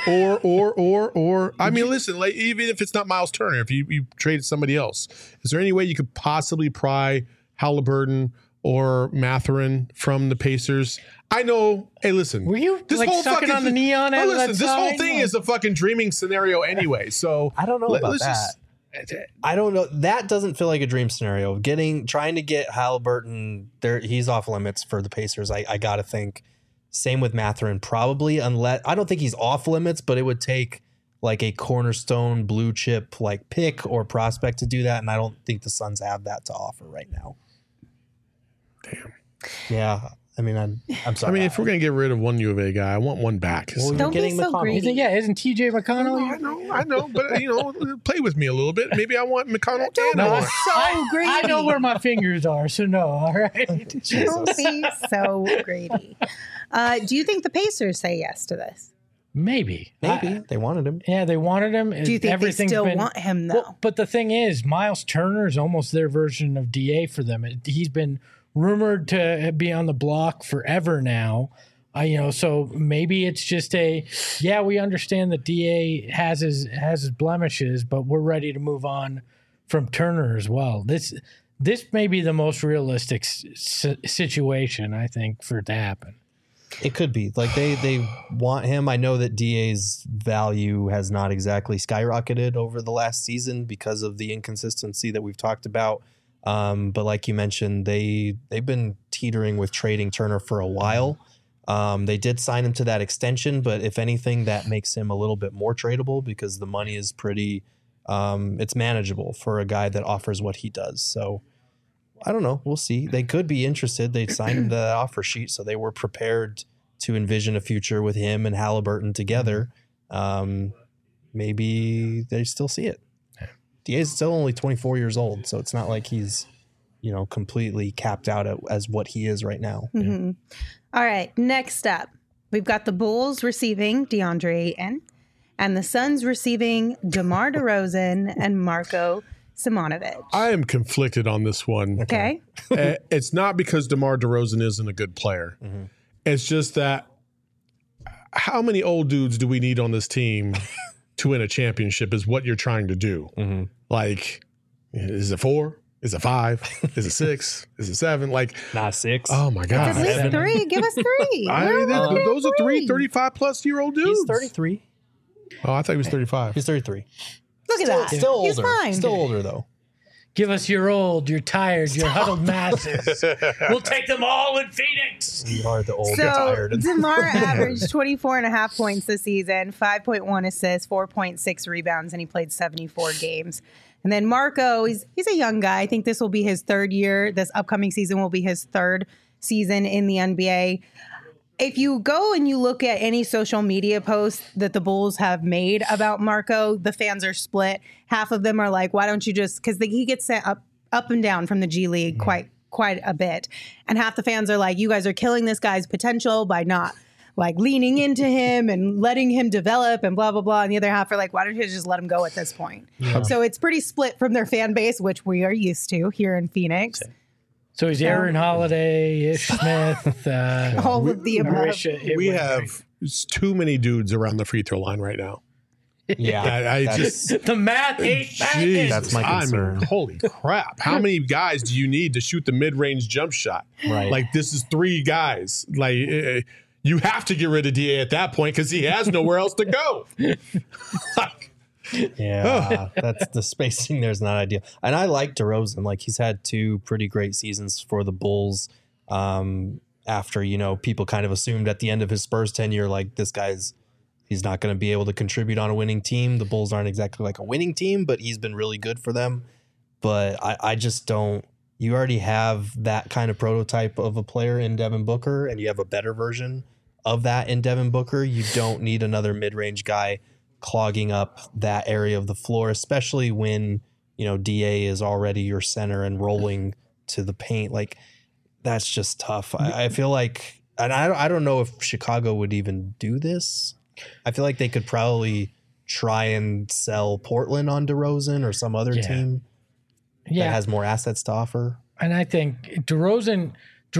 C: I mean, listen, like, even if it's not Miles Turner, if you traded somebody else, is there any way you could possibly pry Halliburton or Mathurin from the Pacers? I know. Hey, listen.
B: were you
C: this
B: like
C: whole
B: sucking
C: fucking
B: on the neon?
C: Oh,
B: out of
C: listen,
B: that
C: this whole
B: sign?
C: thing is a fucking dreaming scenario anyway. So
E: I don't know about
C: let's
E: that.
C: just-
E: I don't know. That doesn't feel like a dream scenario. Trying to get Halliburton there, he's off limits for the Pacers. I gotta think. Same with Mathurin, probably, unless I don't think he's off limits, but it would take like a cornerstone blue chip like pick or prospect to do that, and I don't think the Suns have that to offer right now.
C: Damn.
E: Yeah, I mean, I'm sorry.
C: I mean, if we're gonna get rid of one U of A guy, I want one back.
E: Well,
A: Don't be so greedy.
B: Isn't TJ McConnell?
C: I know, but play with me a little bit. Maybe I want McConnell and
A: No,
C: I want.
A: so greedy.
B: I know where my fingers are, so no. All right.
A: Don't be so greedy. Do you think the Pacers say yes to this?
B: Maybe.
E: They wanted him.
B: Yeah, they wanted him.
A: Do you think they
B: Everything's
A: still
B: been-
A: want him, though?
B: Well, but the thing is, Miles Turner is almost their version of DA for them. He's been rumored to be on the block forever now. So maybe it's just we understand that DA has his blemishes, but we're ready to move on from Turner as well. This may be the most realistic situation, I think, for it to happen.
E: It could be like they want him. I know that DA's value has not exactly skyrocketed over the last season because of the inconsistency that we've talked about. But like you mentioned, they've been teetering with trading Turner for a while. They did sign him to that extension, but if anything, that makes him a little bit more tradable because the money is pretty, it's manageable for a guy that offers what he does. So I don't know. We'll see. They could be interested. They signed him to that offer sheet, so they were prepared to envision a future with him and Halliburton together. Maybe they still see it. DA is still only 24 years old, so it's not like he's, completely capped out as what he is right now.
A: Mm-hmm. All right. Next up, we've got the Bulls receiving DeAndre Ayton and the Suns receiving DeMar DeRozan and Marko Simonovic.
C: I am conflicted on this one.
A: Okay.
C: It's not because DeMar DeRozan isn't a good player. Mm-hmm. It's just that how many old dudes do we need on this team to win a championship is what you're trying to do. Mm-hmm. Like, is it 4? Is it 5? Is it 6? Is it 7? Like,
E: not 6.
C: Oh my God.
A: At least 3. Give us 3.
C: Those are 35 plus year old dudes.
E: He's 33.
C: Oh, I thought he was 35.
E: He's 33.
A: Look at that.
E: Still older.
A: He's fine.
E: Still older though.
B: Give us your old, your tired, your huddled masses. We'll take them all in Phoenix.
E: We are the old,
A: So
E: tired.
A: DeMar averaged 24.5 points this season, 5.1 assists, 4.6 rebounds, and he played 74 games. And then Marko, he's a young guy. I think this will be his third year. This upcoming season will be his third season in the NBA. If you go and you look at any social media posts that the Bulls have made about Marko, the fans are split. Half of them are like, why don't you just, because he gets sent up and down from the G League quite a bit. And half the fans are like, you guys are killing this guy's potential by not like leaning into him and letting him develop and blah, blah, blah. And the other half are like, why don't you just let him go at this point? Yeah. So it's pretty split from their fan base, which we are used to here in Phoenix.
B: So he's Aaron Holiday, Ish Smith,
A: all of the above.
C: We have too many dudes around the free throw line right now.
E: Yeah,
C: I just
B: the math ain't backing.
E: That's my concern.
C: I mean, holy crap! How many guys do you need to shoot the mid-range jump shot?
E: Right,
C: like this is 3 guys. Like you have to get rid of DA at that point because he has nowhere else to go.
E: Yeah, that's the spacing there's not ideal. And I like DeRozan. Like he's had 2 pretty great seasons for the Bulls. And after, people kind of assumed at the end of his Spurs tenure, like he's not going to be able to contribute on a winning team. The Bulls aren't exactly like a winning team, but he's been really good for them. But I just don't. You already have that kind of prototype of a player in Devin Booker, and you have a better version of that in Devin Booker. You don't need another mid-range guy clogging up that area of the floor, especially when, DA is already your center and rolling to the paint. Like, that's just tough. I feel like, and I don't know if Chicago would even do this. I feel like they could probably try and sell Portland on DeRozan or some other team that has more assets to offer.
B: And I think DeRozan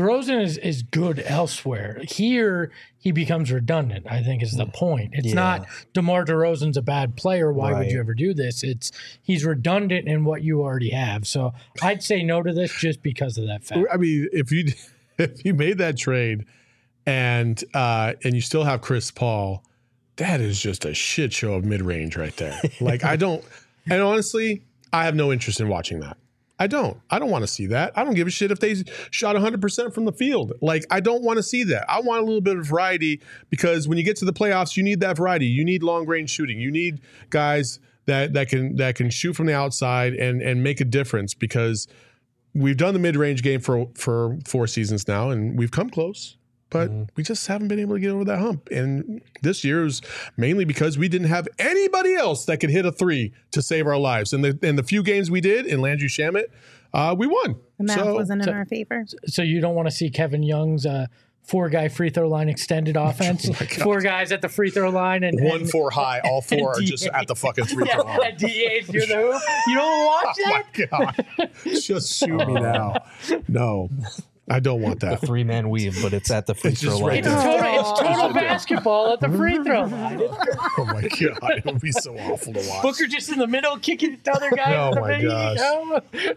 B: is good elsewhere. Here, he becomes redundant, I think is the point. It's not DeMar DeRozan's a bad player. Why would you ever do this? He's redundant in what you already have. So I'd say no to this just because of that fact.
C: I mean, if you made that trade and you still have Chris Paul, that is just a shit show of mid-range right there. Like, and honestly, I have no interest in watching that. I don't want to see that. I don't give a shit if they shot 100% from the field. Like, I don't want to see that. I want a little bit of variety, because when you get to the playoffs, you need that variety. You need long range shooting. You need guys that can shoot from the outside and make a difference, because we've done the mid-range game for 4 seasons now, and we've come close. But we just haven't been able to get over that hump. And this year is mainly because we didn't have anybody else that could hit a 3 to save our lives. And the few games we did in Landry Shamet, we won.
A: The math wasn't in our favor.
B: So you don't want to see Kevin Young's 4-guy free throw line extended offense? 4 guys at the free throw line. And
C: 1-4 high. All 4 are just at the fucking free throw line.
B: DA's near the hoop. You don't watch that?
C: Oh, my God. Just shoot me now. No. I don't want that.
E: A 3-man weave, but it's at the free throw line.
B: It's total basketball at the free throw line.
C: Oh my God, it would be so awful to watch.
B: Booker just in the middle kicking it to other guys.
C: Oh my gosh.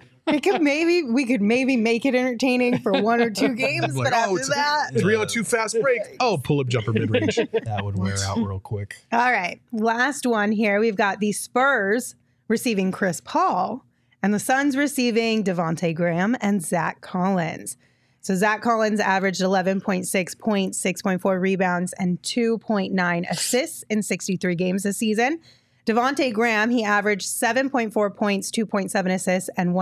A: We could maybe make it entertaining for 1 or 2 games, but after that,
C: 3-on-2 fast break. Oh, pull-up jumper mid-range.
E: That would wear out real quick.
A: All right, last one here. We've got the Spurs receiving Chris Paul, and the Suns receiving Devontae Graham and Zach Collins. So Zach Collins averaged 11.6 points, 6.4 rebounds, and 2.9 assists in 63 games this season. Devontae Graham, he averaged 7.4 points, 2.7 assists, and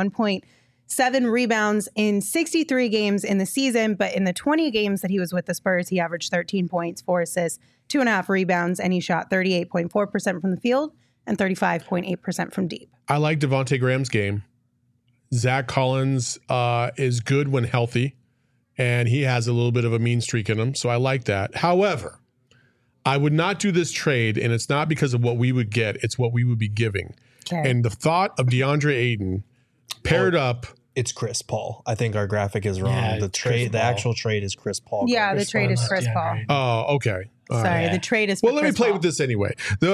A: 1.7 rebounds in 63 games in the season. But in the 20 games that he was with the Spurs, he averaged 13 points, 4 assists, 2.5 rebounds, and he shot 38.4% from the field and 35.8% from deep.
C: I like Devontae Graham's game. Zach Collins is good when healthy, and he has a little bit of a mean streak in him, so I like that. However, I would not do this trade, and it's not because of what we would get, it's what we would be giving. Okay. And the thought of DeAndre Ayton paired up.
E: It's Chris Paul. I think our graphic is wrong.
B: Yeah,
E: the actual trade is Chris Paul.
A: Yeah, the trade is Chris Paul.
C: Oh, okay.
A: Sorry, the trade is.
C: Well, let me play
A: Paul.
C: with this anyway.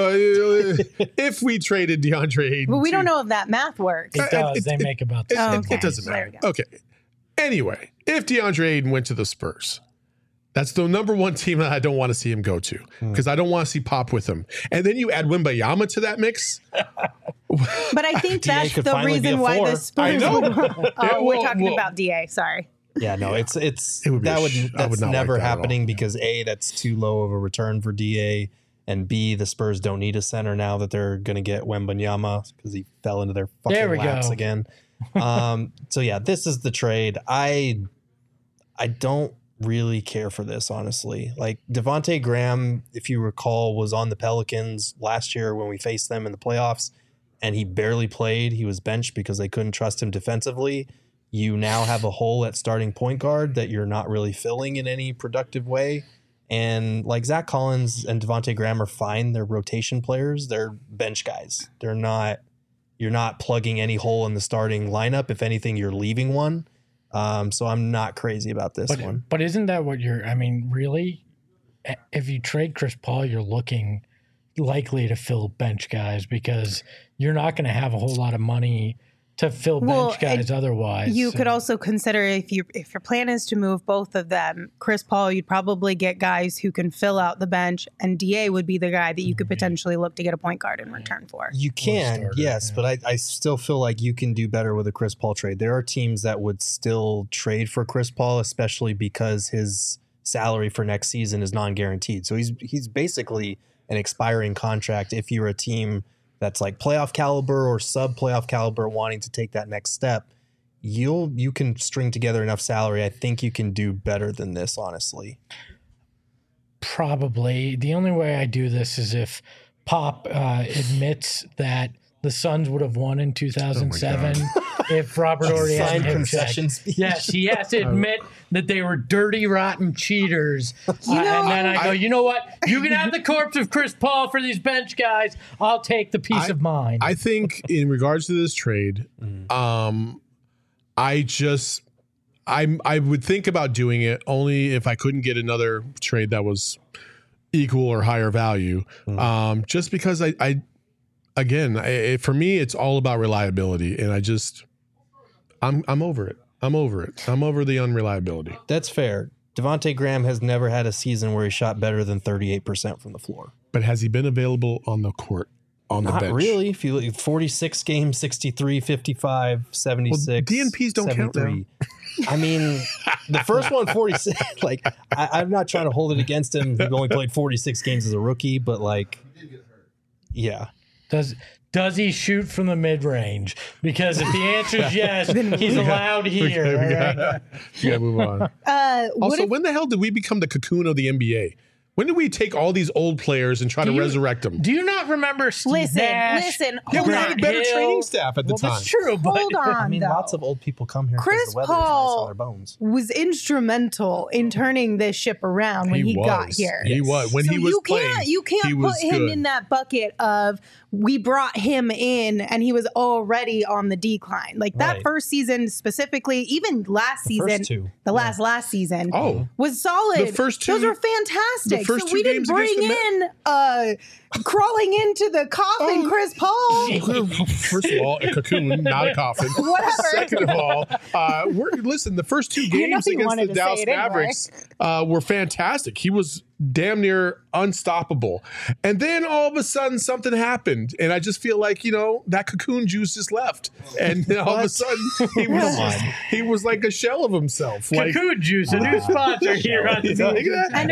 C: If we traded DeAndre Ayton,
A: but we don't know if that math works.
B: It does. They make about this.
C: It doesn't matter. Okay. Anyway, if DeAndre Ayton went to the Spurs, that's the number 1 team that I don't want to see him go to, because I don't want to see Pop with him. And then you add Wembayama to that mix.
A: But I think that's the reason why the Spurs. I know. We're talking about DA. Sorry.
E: Yeah, no, that's never happening, because A, that's too low of a return for DA, and B, the Spurs don't need a center now that they're going to get Wembanyama, because he fell into their fucking laps again. So yeah, this is the trade. I don't really care for this, honestly. Like, Devontae Graham, if you recall, was on the Pelicans last year when we faced them in the playoffs, and he barely played. He was benched because they couldn't trust him defensively. You now have a hole at starting point guard that you're not really filling in any productive way. And like, Zach Collins and Devontae Graham are fine. They're rotation players. They're bench guys. You're not plugging any hole in the starting lineup. If anything, you're leaving one. So I'm not crazy about this one.
B: But isn't that what really, if you trade Chris Paul, you're looking likely to fill bench guys, because you're not going to have a whole lot of money to fill bench guys otherwise.
A: You could also consider if your plan is to move both of them, Chris Paul, you'd probably get guys who can fill out the bench, and DA would be the guy that you could potentially look to get a point guard in return for.
E: You can, yes, but I still feel like you can do better with a Chris Paul trade. There are teams that would still trade for Chris Paul, especially because his salary for next season is non-guaranteed. So he's basically an expiring contract if you're a team that's like playoff caliber or sub-playoff caliber wanting to take that next step. You can string together enough salary. I think you can do better than this, honestly.
B: Probably. The only way I do this is if Pop admits that the Suns would have won in 2007 if Robert Horry hadn't hit
E: concession speech.
B: Yes, he has to admit that they were dirty, rotten cheaters. And then I go, you know what? You can have the corpse of Chris Paul for these bench guys. I'll take the peace of mind.
C: I think in regards to this trade, I would think about doing it only if I couldn't get another trade that was equal or higher value. Just because for me, it's all about reliability, and I'm over it. I'm over the unreliability.
E: That's fair. Devontae Graham has never had a season where he shot better than 38% from the floor.
C: But has he been available on the court, on the bench?
E: Not really. If you look at 46 games, 63, 55, 76,
C: well, DNPs don't 73. Count now.
E: I mean, the first one, 46. Like, I'm not trying to hold it against him. He only played 46 games as a rookie, but like, yeah.
B: Does he shoot from the mid-range? Because if the answer is yes, he's allowed here.
C: We gotta move on. Also, when the hell did we become the cocoon of the NBA? When did we take all these old players and try to resurrect them?
B: Do you not remember Steve Nash?
A: Listen.
C: Yeah, we had a better training staff at the time.
B: That's true, but
A: hold on.
E: I mean, lots of old people come here because the weather is nice on their bones.
A: Was instrumental in turning this ship around when he got here.
C: He was. When he was playing,
A: you can't put him in that bucket of we brought him in and he was already on the decline. Like that first season specifically, even last season, last season was solid.
C: The first two,
A: those were fantastic.
C: So
A: we didn't bring in crawling into the coffin Chris Paul.
C: First of all, a cocoon, not a coffin.
A: Whatever.
C: Second of all, listen, the first two games against the Dallas Mavericks were fantastic. He was damn near unstoppable. And then all of a sudden something happened. And I just feel like, that cocoon juice just left. And then all of a sudden he was like a shell of himself.
B: Cocoon juice, a new sponsor here on the
A: And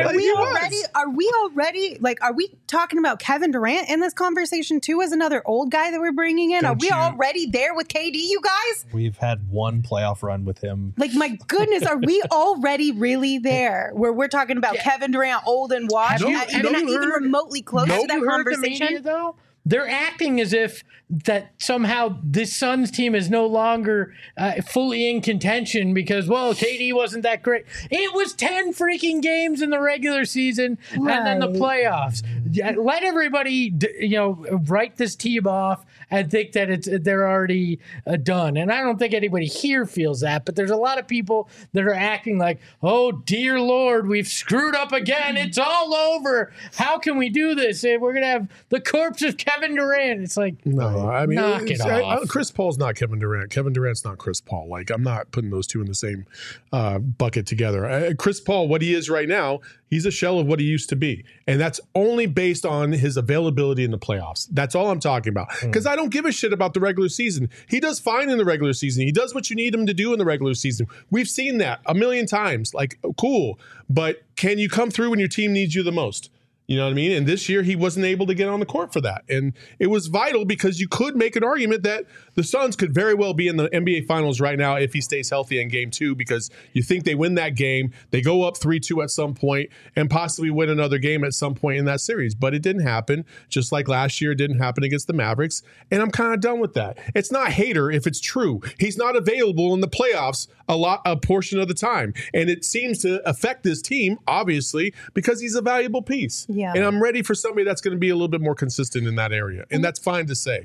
A: are we talking about Kevin Durant in this conversation too as another old guy that we're bringing in? Are we already there with KD, you guys?
E: We've had one playoff run with him.
A: Like, my goodness, are we already really there where we're talking about Kevin Durant old and washed, even remotely close to that conversation?
B: Media, though? They're acting as if that somehow this Suns team is no longer fully in contention because, KD wasn't that great. It was 10 freaking games in the regular season and then the playoffs. Let everybody, write this team off and think that they're already done. And I don't think anybody here feels that, but there's a lot of people that are acting like, oh, dear Lord, we've screwed up again. It's all over. How can we do this? We're going to have the corpse of Kevin Durant. It's like,
C: no, I mean,
B: knock it off.
C: Chris Paul's not Kevin Durant. Kevin Durant's not Chris Paul. Like, I'm not putting those two in the same bucket together. Chris Paul, what he is right now, he's a shell of what he used to be. And that's only based on his availability in the playoffs. That's all I'm talking about. Because I don't give a shit about the regular season. He does fine in the regular season. He does what you need him to do in the regular season. We've seen that a million times. Like, cool. But can you come through when your team needs you the most? You know what I mean? And this year he wasn't able to get on the court for that. And it was vital because you could make an argument that the Suns could very well be in the NBA Finals right now if he stays healthy in game 2, because you think they win that game, they go up 3-2 at some point and possibly win another game at some point in that series. But it didn't happen. Just like last year, it didn't happen against the Mavericks. And I'm kind of done with that. It's not hater if it's true. He's not available in the playoffs a portion of the time. And it seems to affect this team, obviously, because he's a valuable piece.
A: Yeah.
C: And I'm ready for somebody that's going to be a little bit more consistent in that area. And that's fine to say.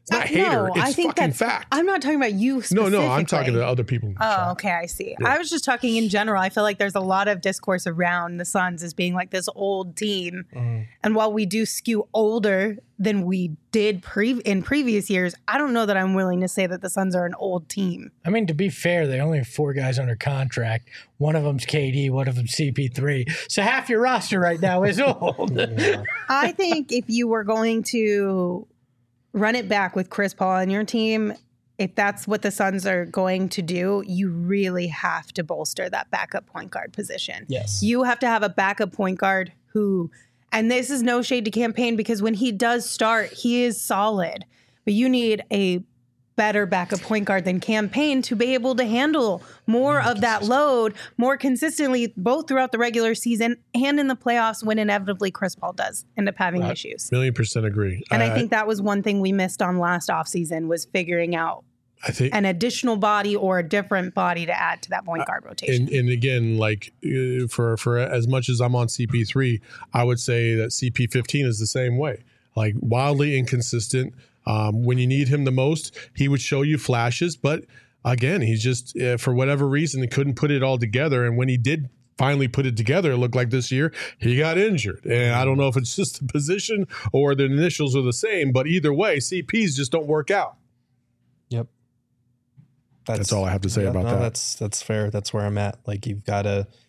C: not hater.
A: No,
C: It's
A: I think
C: fucking
A: that's
C: fact.
A: I'm not talking about you specifically.
C: No, I'm talking to other people. in the
A: Oh,
C: chat.
A: okay, I see. I was just talking in general. I feel like there's a lot of discourse around the Suns as being like this old team. And while we do skew older than we did in previous years, I don't know that I'm willing to say that the Suns are an old team.
B: I mean, to be fair, they only have 4 guys under contract. One of them's KD, one of them's CP3. So half your roster right now is old.
A: I think if you were going to run it back with Chris Paul on your team, if that's what the Suns are going to do, you really have to bolster that backup point guard position.
E: Yes.
A: You have to have a backup point guard who, and this is no shade to Campaign, because when he does start, he is solid. But you need a better backup point guard than Campaign to be able to handle more of that load more consistently, both throughout the regular season and in the playoffs when inevitably Chris Paul does end up having issues.
C: 1,000,000% agree.
A: And I think that was one thing we missed on last offseason was figuring out
C: I think
A: an additional body or a different body to add to that point guard rotation.
C: And again, like for as much as I'm on CP3, I would say that CP15 is the same way. Like wildly inconsistent. When you need him the most, he would show you flashes, but again, he's just for whatever reason he couldn't put it all together. And when he did finally put it together, it looked like this year he got injured. And I don't know if it's just the position or the initials are the same, but either way, CPs just don't work out.
E: Yep.
C: That's all I have to say about that.
E: That's fair. That's where I'm at. Like you've got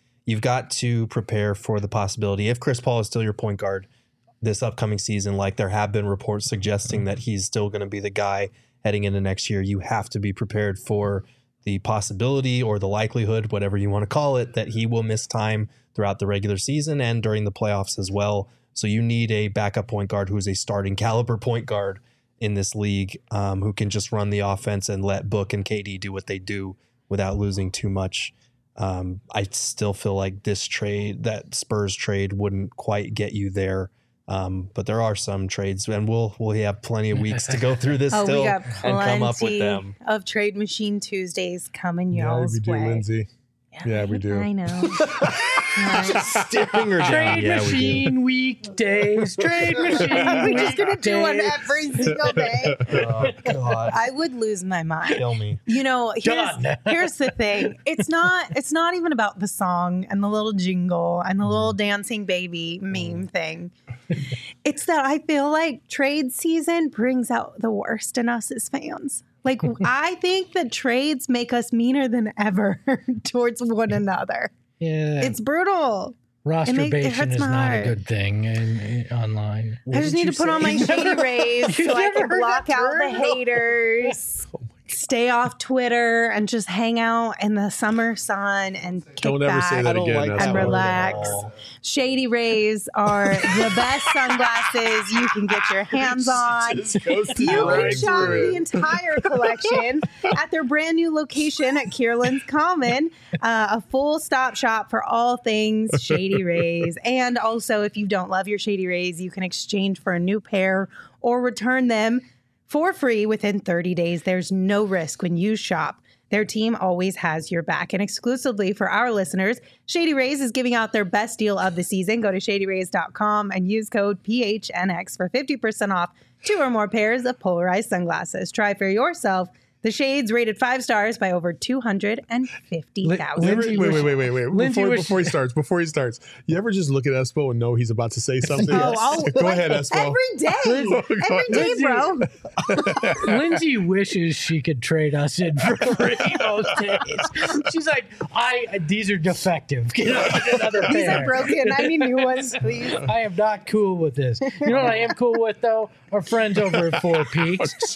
E: to prepare for the possibility if Chris Paul is still your point guard this upcoming season, like there have been reports suggesting that he's still going to be the guy heading into next year. You have to be prepared for the possibility or the likelihood, whatever you want to call it, that he will miss time throughout the regular season and during the playoffs as well. So you need a backup point guard who is a starting caliber point guard in this league, who can just run the offense and let Book and KD do what they do without losing too much. I still feel like this trade, that Spurs trade, wouldn't quite get you there. But there are some trades, and we'll have plenty of weeks to go through this still
A: we got
E: and come up with them.
A: of Trade Machine Tuesdays coming
C: Yeah,
A: y'all's
C: we do,
A: way.
C: Lindsay. Yeah, we do.
A: I know.
E: Staring her down.
B: Trade
E: Yeah, we do.
B: machine weekdays. Trade machine.
A: We're just gonna do one
B: weekdays.
A: every single day.
E: Oh, God.
A: I would lose my mind.
E: Kill me.
A: You know,
B: Done.
A: here's the thing. It's not even about the song and the little jingle and the little dancing baby meme thing. It's that I feel like trade season brings out the worst in us as fans. Like, I think that trades make us meaner than ever towards one another.
B: Yeah,
A: It's brutal.
B: rosterbation
A: hurts
B: is
A: my
B: not
A: heart.
B: a good thing online.
A: I just need to put on my shady rays so I
B: never
A: can
B: heard
A: block
B: that
A: out the
B: term?
A: haters, stay off Twitter, and just hang out in the summer sun and kick
C: Don't ever
A: back
C: say that
E: I don't
C: again.
E: like
C: That's
A: and
E: that
C: fine.
E: word at
A: relax.
E: all.
A: Shady Rays are the best sunglasses you can get your hands on. You can shop the entire collection at their brand new location at Kierland's Common, a full stop shop for all things Shady Rays. And also, if you don't love your Shady Rays, you can exchange for a new pair or return them for free within 30 days. There's no risk when you shop. Their team always has your back. And exclusively for our listeners, Shady Rays is giving out their best deal of the season. Go to shadyrays.com and use code PHNX for 50% off 2 or more pairs of polarized sunglasses. Try for yourself the shades rated 5 stars by over 250,000.
B: Lindsay
C: Wait.
B: Lindsay was-
C: Before he starts, you ever just look at Espo and know he's about to say something?
A: Oh,
C: Go ahead, Espo.
A: Every day. Every day, bro.
B: Lindsay wishes she could trade us in for free those days. She's like, these are defective. Get another
A: These
B: pair.
A: are broken. I need new ones, please.
B: I am not cool with this. You know what I am cool with though? Our friends over at Four Peaks.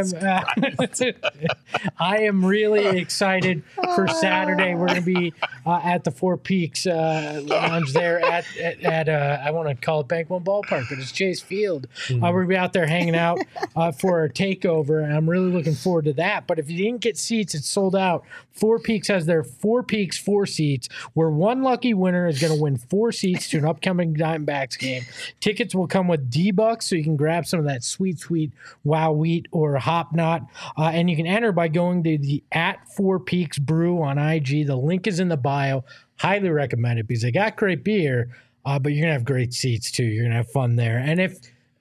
B: I am really excited for Saturday. We're going to be at the Four Peaks lounge there at I want to call it Bank One Ballpark, but it's Chase Field. We're going to be out there hanging out for our takeover, and I'm really looking forward to that. But if you didn't get seats, it's sold out. Four Peaks has their Four Peaks 4 seats, where one lucky winner is going to win 4 seats to an upcoming Diamondbacks game. Tickets will come with D-Bucks, so you can grab some of that sweet Wow Wheat or Hop Knot. And you can enter by going to the @4Peaks Brew on IG. The link is in the bio. Highly recommend it because they got great beer, but you're going to have great seats too. You're going to have fun there. And if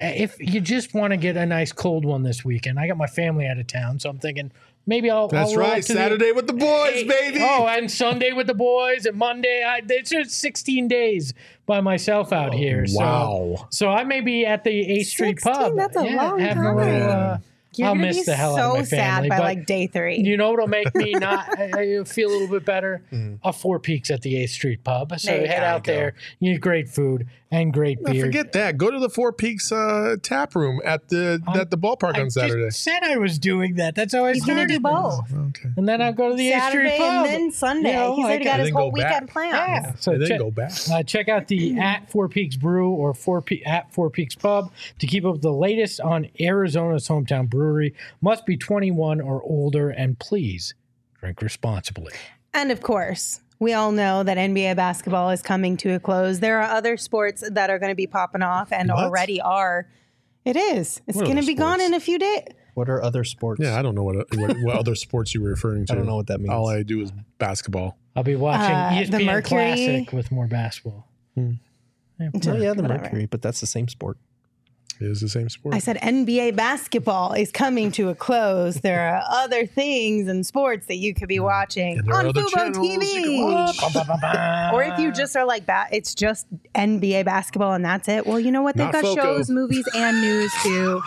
B: if you just want to get a nice cold one this weekend, I got my family out of town, so I'm thinking maybe I'll.
C: That's
B: I'll roll
C: right.
B: up to
C: Saturday with the boys, baby.
B: Oh, and Sunday with the boys, and Monday. It's just 16 days by myself out here.
C: Wow.
B: So I may be at the 8th Street
A: 16,
B: Pub.
A: that's a long
B: having
A: time.
B: a little.
A: You're
B: I'll
A: gonna
B: miss
A: be
B: the hell out of
A: so
B: my family.
A: sad by
B: but
A: like day 3.
B: you know what'll make me not I feel a little bit better? A Four Peaks at the 8th Street Pub. So
A: There you
B: head
A: go.
B: out there. You get great food and great
C: No,
B: beer.
C: forget that. Go to the Four Peaks tap room at the ballpark
B: I
C: on Saturday.
B: just said I was doing that. That's how I
A: He's gonna
B: started.
A: do both.
C: Okay.
B: And then I'll go to the 8th Street
A: Saturday
B: Pub.
A: and then Sunday.
B: You know,
A: He's already
B: like-
A: got his
C: then
A: whole
C: go back.
A: weekend planned.
B: Yeah. So
C: And then
B: check,
C: go back.
B: check out the at Four Peaks Brew or at Four Peaks Pub to keep up with the latest on Arizona's hometown brewery. Must be 21 or older, and please drink responsibly.
A: And of course, we all know that NBA basketball is coming to a close. There are other sports that are going to be popping off and
C: What?
A: already are. It is. It's
C: What
A: going to
C: other
A: be gone
C: sports?
A: in a few days.
E: What are other sports?
C: Yeah, I don't know what other sports you were referring to.
E: I don't know what that means.
C: All I do is basketball.
B: I'll be watching
A: the
B: ESPN
A: Mercury.
B: Classic with more basketball.
E: Oh yeah, the
A: Whatever.
E: Mercury, but that's the same sport.
C: It is the same sport.
A: I said NBA basketball is coming to a close. There are other things and sports that you could be watching
C: And there are
A: on
C: other
A: Fubo
C: channels you can
A: TV.
C: watch.
A: Or if you just are like, it's just NBA basketball and that's it. Well, you know what? They've
C: Not
A: got
C: Foco.
A: shows, movies, and news too.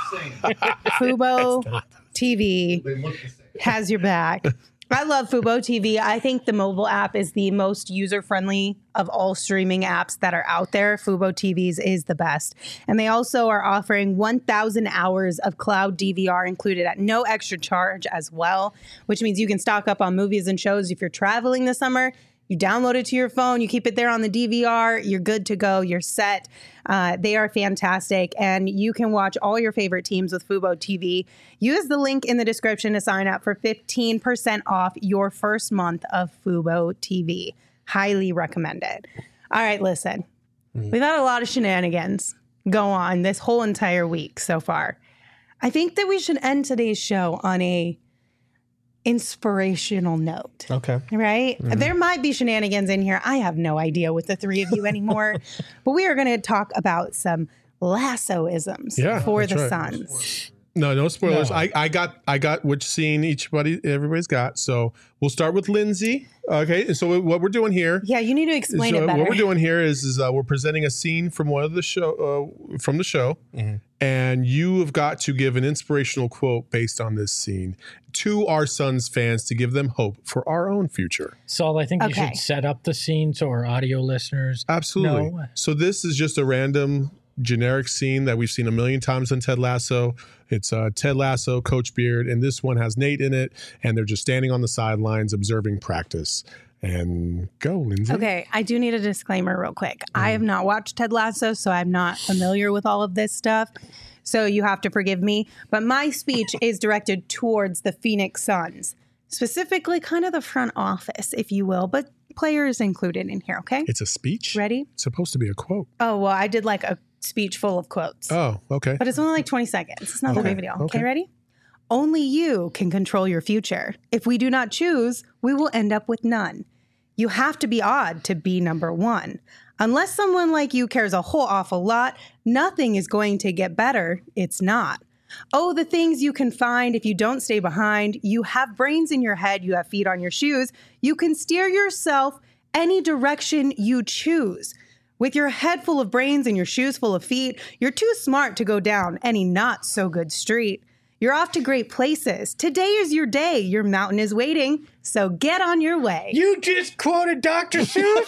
A: Fubo TV
F: They look the same.
A: has your back. I love Fubo TV. I think the mobile app is the most user-friendly of all streaming apps that are out there. Fubo TVs is the best. And they also are offering 1,000 hours of cloud DVR included at no extra charge as well, which means you can stock up on movies and shows if you're traveling this summer. You download it to your phone, you keep it there on the DVR, you're good to go, you're set. They are fantastic, and you can watch all your favorite teams with Fubo TV. Use the link in the description to sign up for 15% off your first month of Fubo TV. Highly recommend it. All right, listen. We've had a lot of shenanigans go on this whole entire week so far. I think that we should end today's show on a inspirational note.
E: Okay.
A: Right? There might be shenanigans in here. I have no idea with the three of you anymore. But we are going to talk about some lassoisms
C: Yeah,
A: for
C: that's
A: the
C: right.
A: Suns.
C: No spoilers.
B: No.
C: I got which scene everybody's got. So we'll start with Lindsay. Okay. And so what we're doing here.
A: Yeah, you need to explain it better.
C: What we're doing here is we're presenting a scene from one of the show from the show, and you have got to give an inspirational quote based on this scene to our Suns fans to give them hope for our own future.
B: Saul, I think you
A: Okay.
B: should set up the scene so our audio listeners
C: Absolutely.
B: know.
C: So this is just a random generic scene that we've seen a million times on Ted Lasso. It's Ted Lasso, Coach Beard, and this one has Nate in it, and they're just standing on the sidelines observing practice. And go, Lindsay.
A: Okay, I do need a disclaimer real quick. I have not watched Ted Lasso, so I'm not familiar with all of this stuff. So you have to forgive me. But my speech is directed towards the Phoenix Suns, specifically kind of the front office, if you will, but players included in here, okay?
C: It's a speech?
A: Ready?
C: It's supposed to be a quote.
A: Oh, well, I did like a speech full of quotes.
C: Oh, okay.
A: But it's only like 20 seconds. It's not that big of a deal.
C: Okay.
A: Okay, ready? Only you can control your future. If we do not choose, we will end up with none. You have to be odd to be number one. Unless someone like you cares a whole awful lot, nothing is going to get better. It's not. Oh, the things you can find if you don't stay behind. You have brains in your head. You have feet on your shoes. You can steer yourself any direction you choose. With your head full of brains and your shoes full of feet, you're too smart to go down any not so good street. You're off to great places. Today is your day. Your mountain is waiting. So get on your way.
B: You just quoted Dr.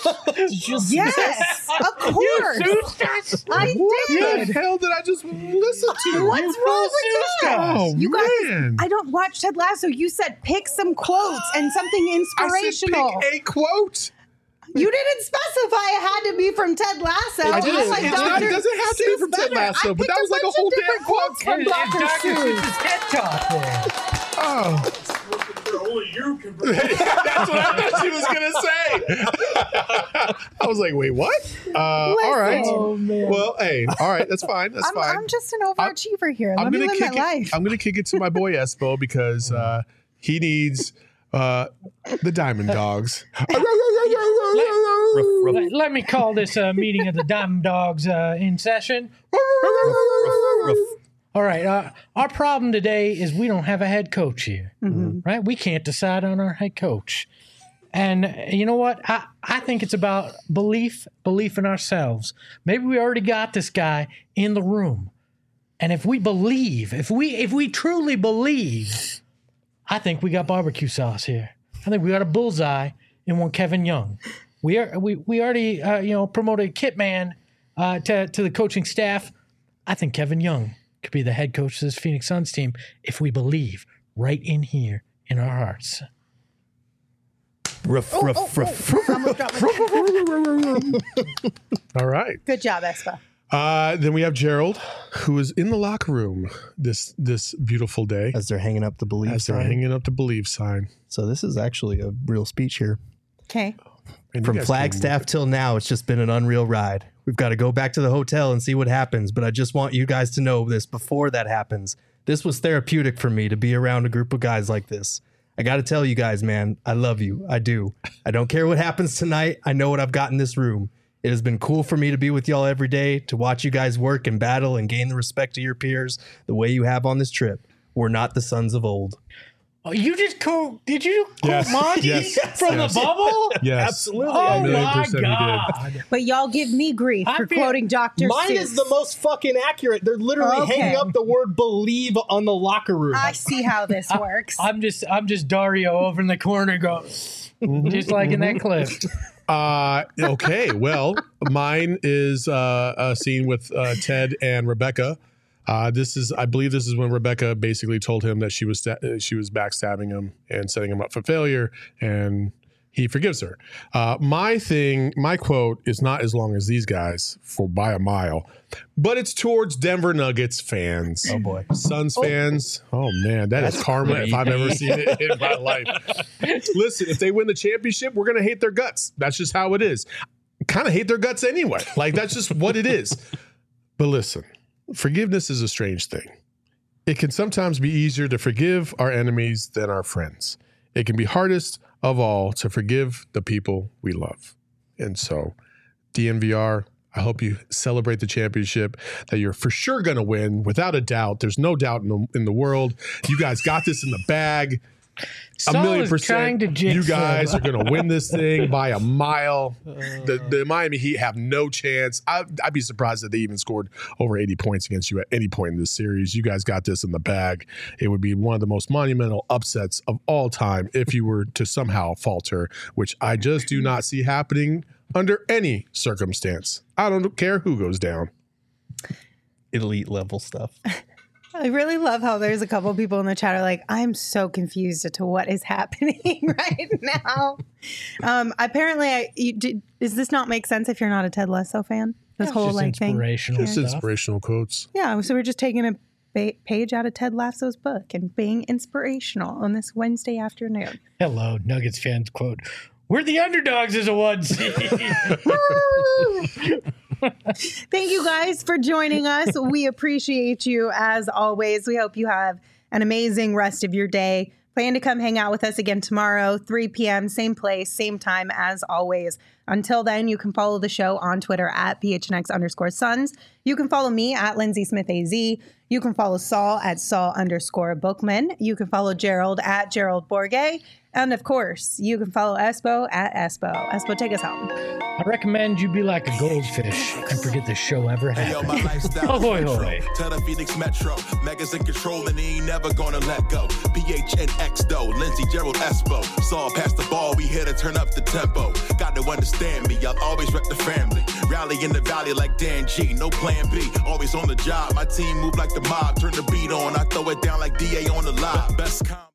B: Seuss?
A: Yes, of course.
B: You Seussed us?
A: I
C: What
A: did.
C: the hell did I just listen to?
A: What's wrong with that?
C: Oh,
A: You guys,
C: man.
A: I don't watch Ted Lasso. You said pick some quotes and something
C: I
A: inspirational.
C: said pick a quote.
A: You didn't specify it had to be from Ted Lasso.
C: I did.
A: like
C: It's not- it
A: Dr.
C: doesn't have to be
A: Seuss
C: from Ted
A: better.
C: Lasso,
A: I
C: but that
A: picked
C: was like a
A: bunch
C: whole
A: of different
C: damn
A: quotes from
B: It's
A: Dr.
B: Dr.
A: Seuss.
B: Seuss's TED Talk there.
C: Oh.
F: Only you can.
C: That's what I thought she was going to say. I was like, wait, what? All right.
B: Oh, man.
C: Well, hey, all right. That's fine. That's fine.
A: I'm just an overachiever here. Let me
C: gonna
A: live my
C: kick
A: life.
C: it. I'm going to kick it to my boy Espo because he needs the Diamond Dogs.
B: Let me call this meeting of the Diamond Dogs in session. All right. Our problem today is we don't have a head coach here, right? We can't decide on our head coach. And you know what? I think it's about belief in ourselves. Maybe we already got this guy in the room. And if we believe, if we truly believe, I think we got barbecue sauce here. I think we got a bullseye in one Kevin Young. We already promoted Kit Man to the coaching staff. I think Kevin Young could be the head coach of this Phoenix Suns team if we believe right in here in our hearts.
C: All right.
A: Good job, Espa.
C: Then we have Gerald, who is in the locker room this beautiful day.
E: As they're hanging up the believe
C: sign.
E: So this is actually a real speech here.
A: Okay.
E: From Flagstaff till now, it's just been an unreal ride. We've got to go back to the hotel and see what happens. But I just want you guys to know this before that happens. This was therapeutic for me to be around a group of guys like this. I got to tell you guys, man, I love you. I do. I don't care what happens tonight. I know what I've got in this room. It has been cool for me to be with y'all every day, to watch you guys work and battle and gain the respect of your peers the way you have on this trip. We're not the sons of old.
B: Oh, you just did you quote Monty from the bubble?
C: Yes.
E: Absolutely.
B: Oh, my God.
A: But y'all give me grief for quoting Dr.
E: Mine
A: Seuss.
E: is the most fucking accurate. They're literally hanging up the word believe on the locker room.
A: I see how this works.
B: I'm just Dario over in the corner going, just like in that clip.
C: Okay, well, mine is a scene with Ted and Rebecca. I believe this is when Rebecca basically told him that she was backstabbing him and setting him up for failure, and he forgives her. My quote is not as long as these guys by a mile, but it's towards Denver Nuggets fans.
E: Oh boy,
C: Suns fans. Oh man, that's karma if I've ever seen it in my life. Listen, if they win the championship, we're gonna hate their guts. That's just how it is. Kind of hate their guts anyway. Like that's just what it is. But listen. Forgiveness is a strange thing. It can sometimes be easier to forgive our enemies than our friends. It can be hardest of all to forgive the people we love. And so, DNVR, I hope you celebrate the championship that you're for sure going to win, without a doubt. There's no doubt in the world. You guys got this in the bag.
B: Saul
C: 1,000,000%. You guys are going to win this thing by a mile. The Miami Heat have no chance. I'd be surprised if they even scored over 80 points against you at any point in this series. You guys got this in the bag. It would be one of the most monumental upsets of all time if you were to somehow falter, which I just do not see happening under any circumstance. I don't care who goes down.
E: Elite level stuff.
A: I really love how there's a couple people in the chat are like, I'm so confused as to what is happening right now. Apparently, does this not make sense if you're not a Ted Lasso fan? This whole like thing,
C: just inspirational quotes.
A: Yeah, so we're just taking a page out of Ted Lasso's book and being inspirational on this Wednesday afternoon.
B: Hello, Nuggets fans. Quote: "We're the underdogs as a 1 seed."
A: Thank you guys for joining us. We appreciate you as always. We hope you have an amazing rest of your day. Plan to come hang out with us again tomorrow, 3 p.m., same place, same time as always. Until then, you can follow the show on Twitter at @PHNX_Suns. You can follow me at Lindsay Smith AZ. You can follow Saul at Saul_Bookman. You can follow Gerald at Gerald Bourget. And of course, you can follow Espo at Espo. Espo, take us home.
B: I recommend you be like a goldfish and forget the show ever happened. Ahoy, hoy.
H: Tell the Phoenix Metro. Megas in control and he ain't never gonna let go. PHNX though, Lindsay, Gerald, Espo. Saw past the ball, we here to turn up the tempo. Got to understand me, I'll always rep the family. Rally in the valley like Dan G, no plan B. Always on the job, my team move like the mob. Turn the beat on, I throw it down like DA on the live. Best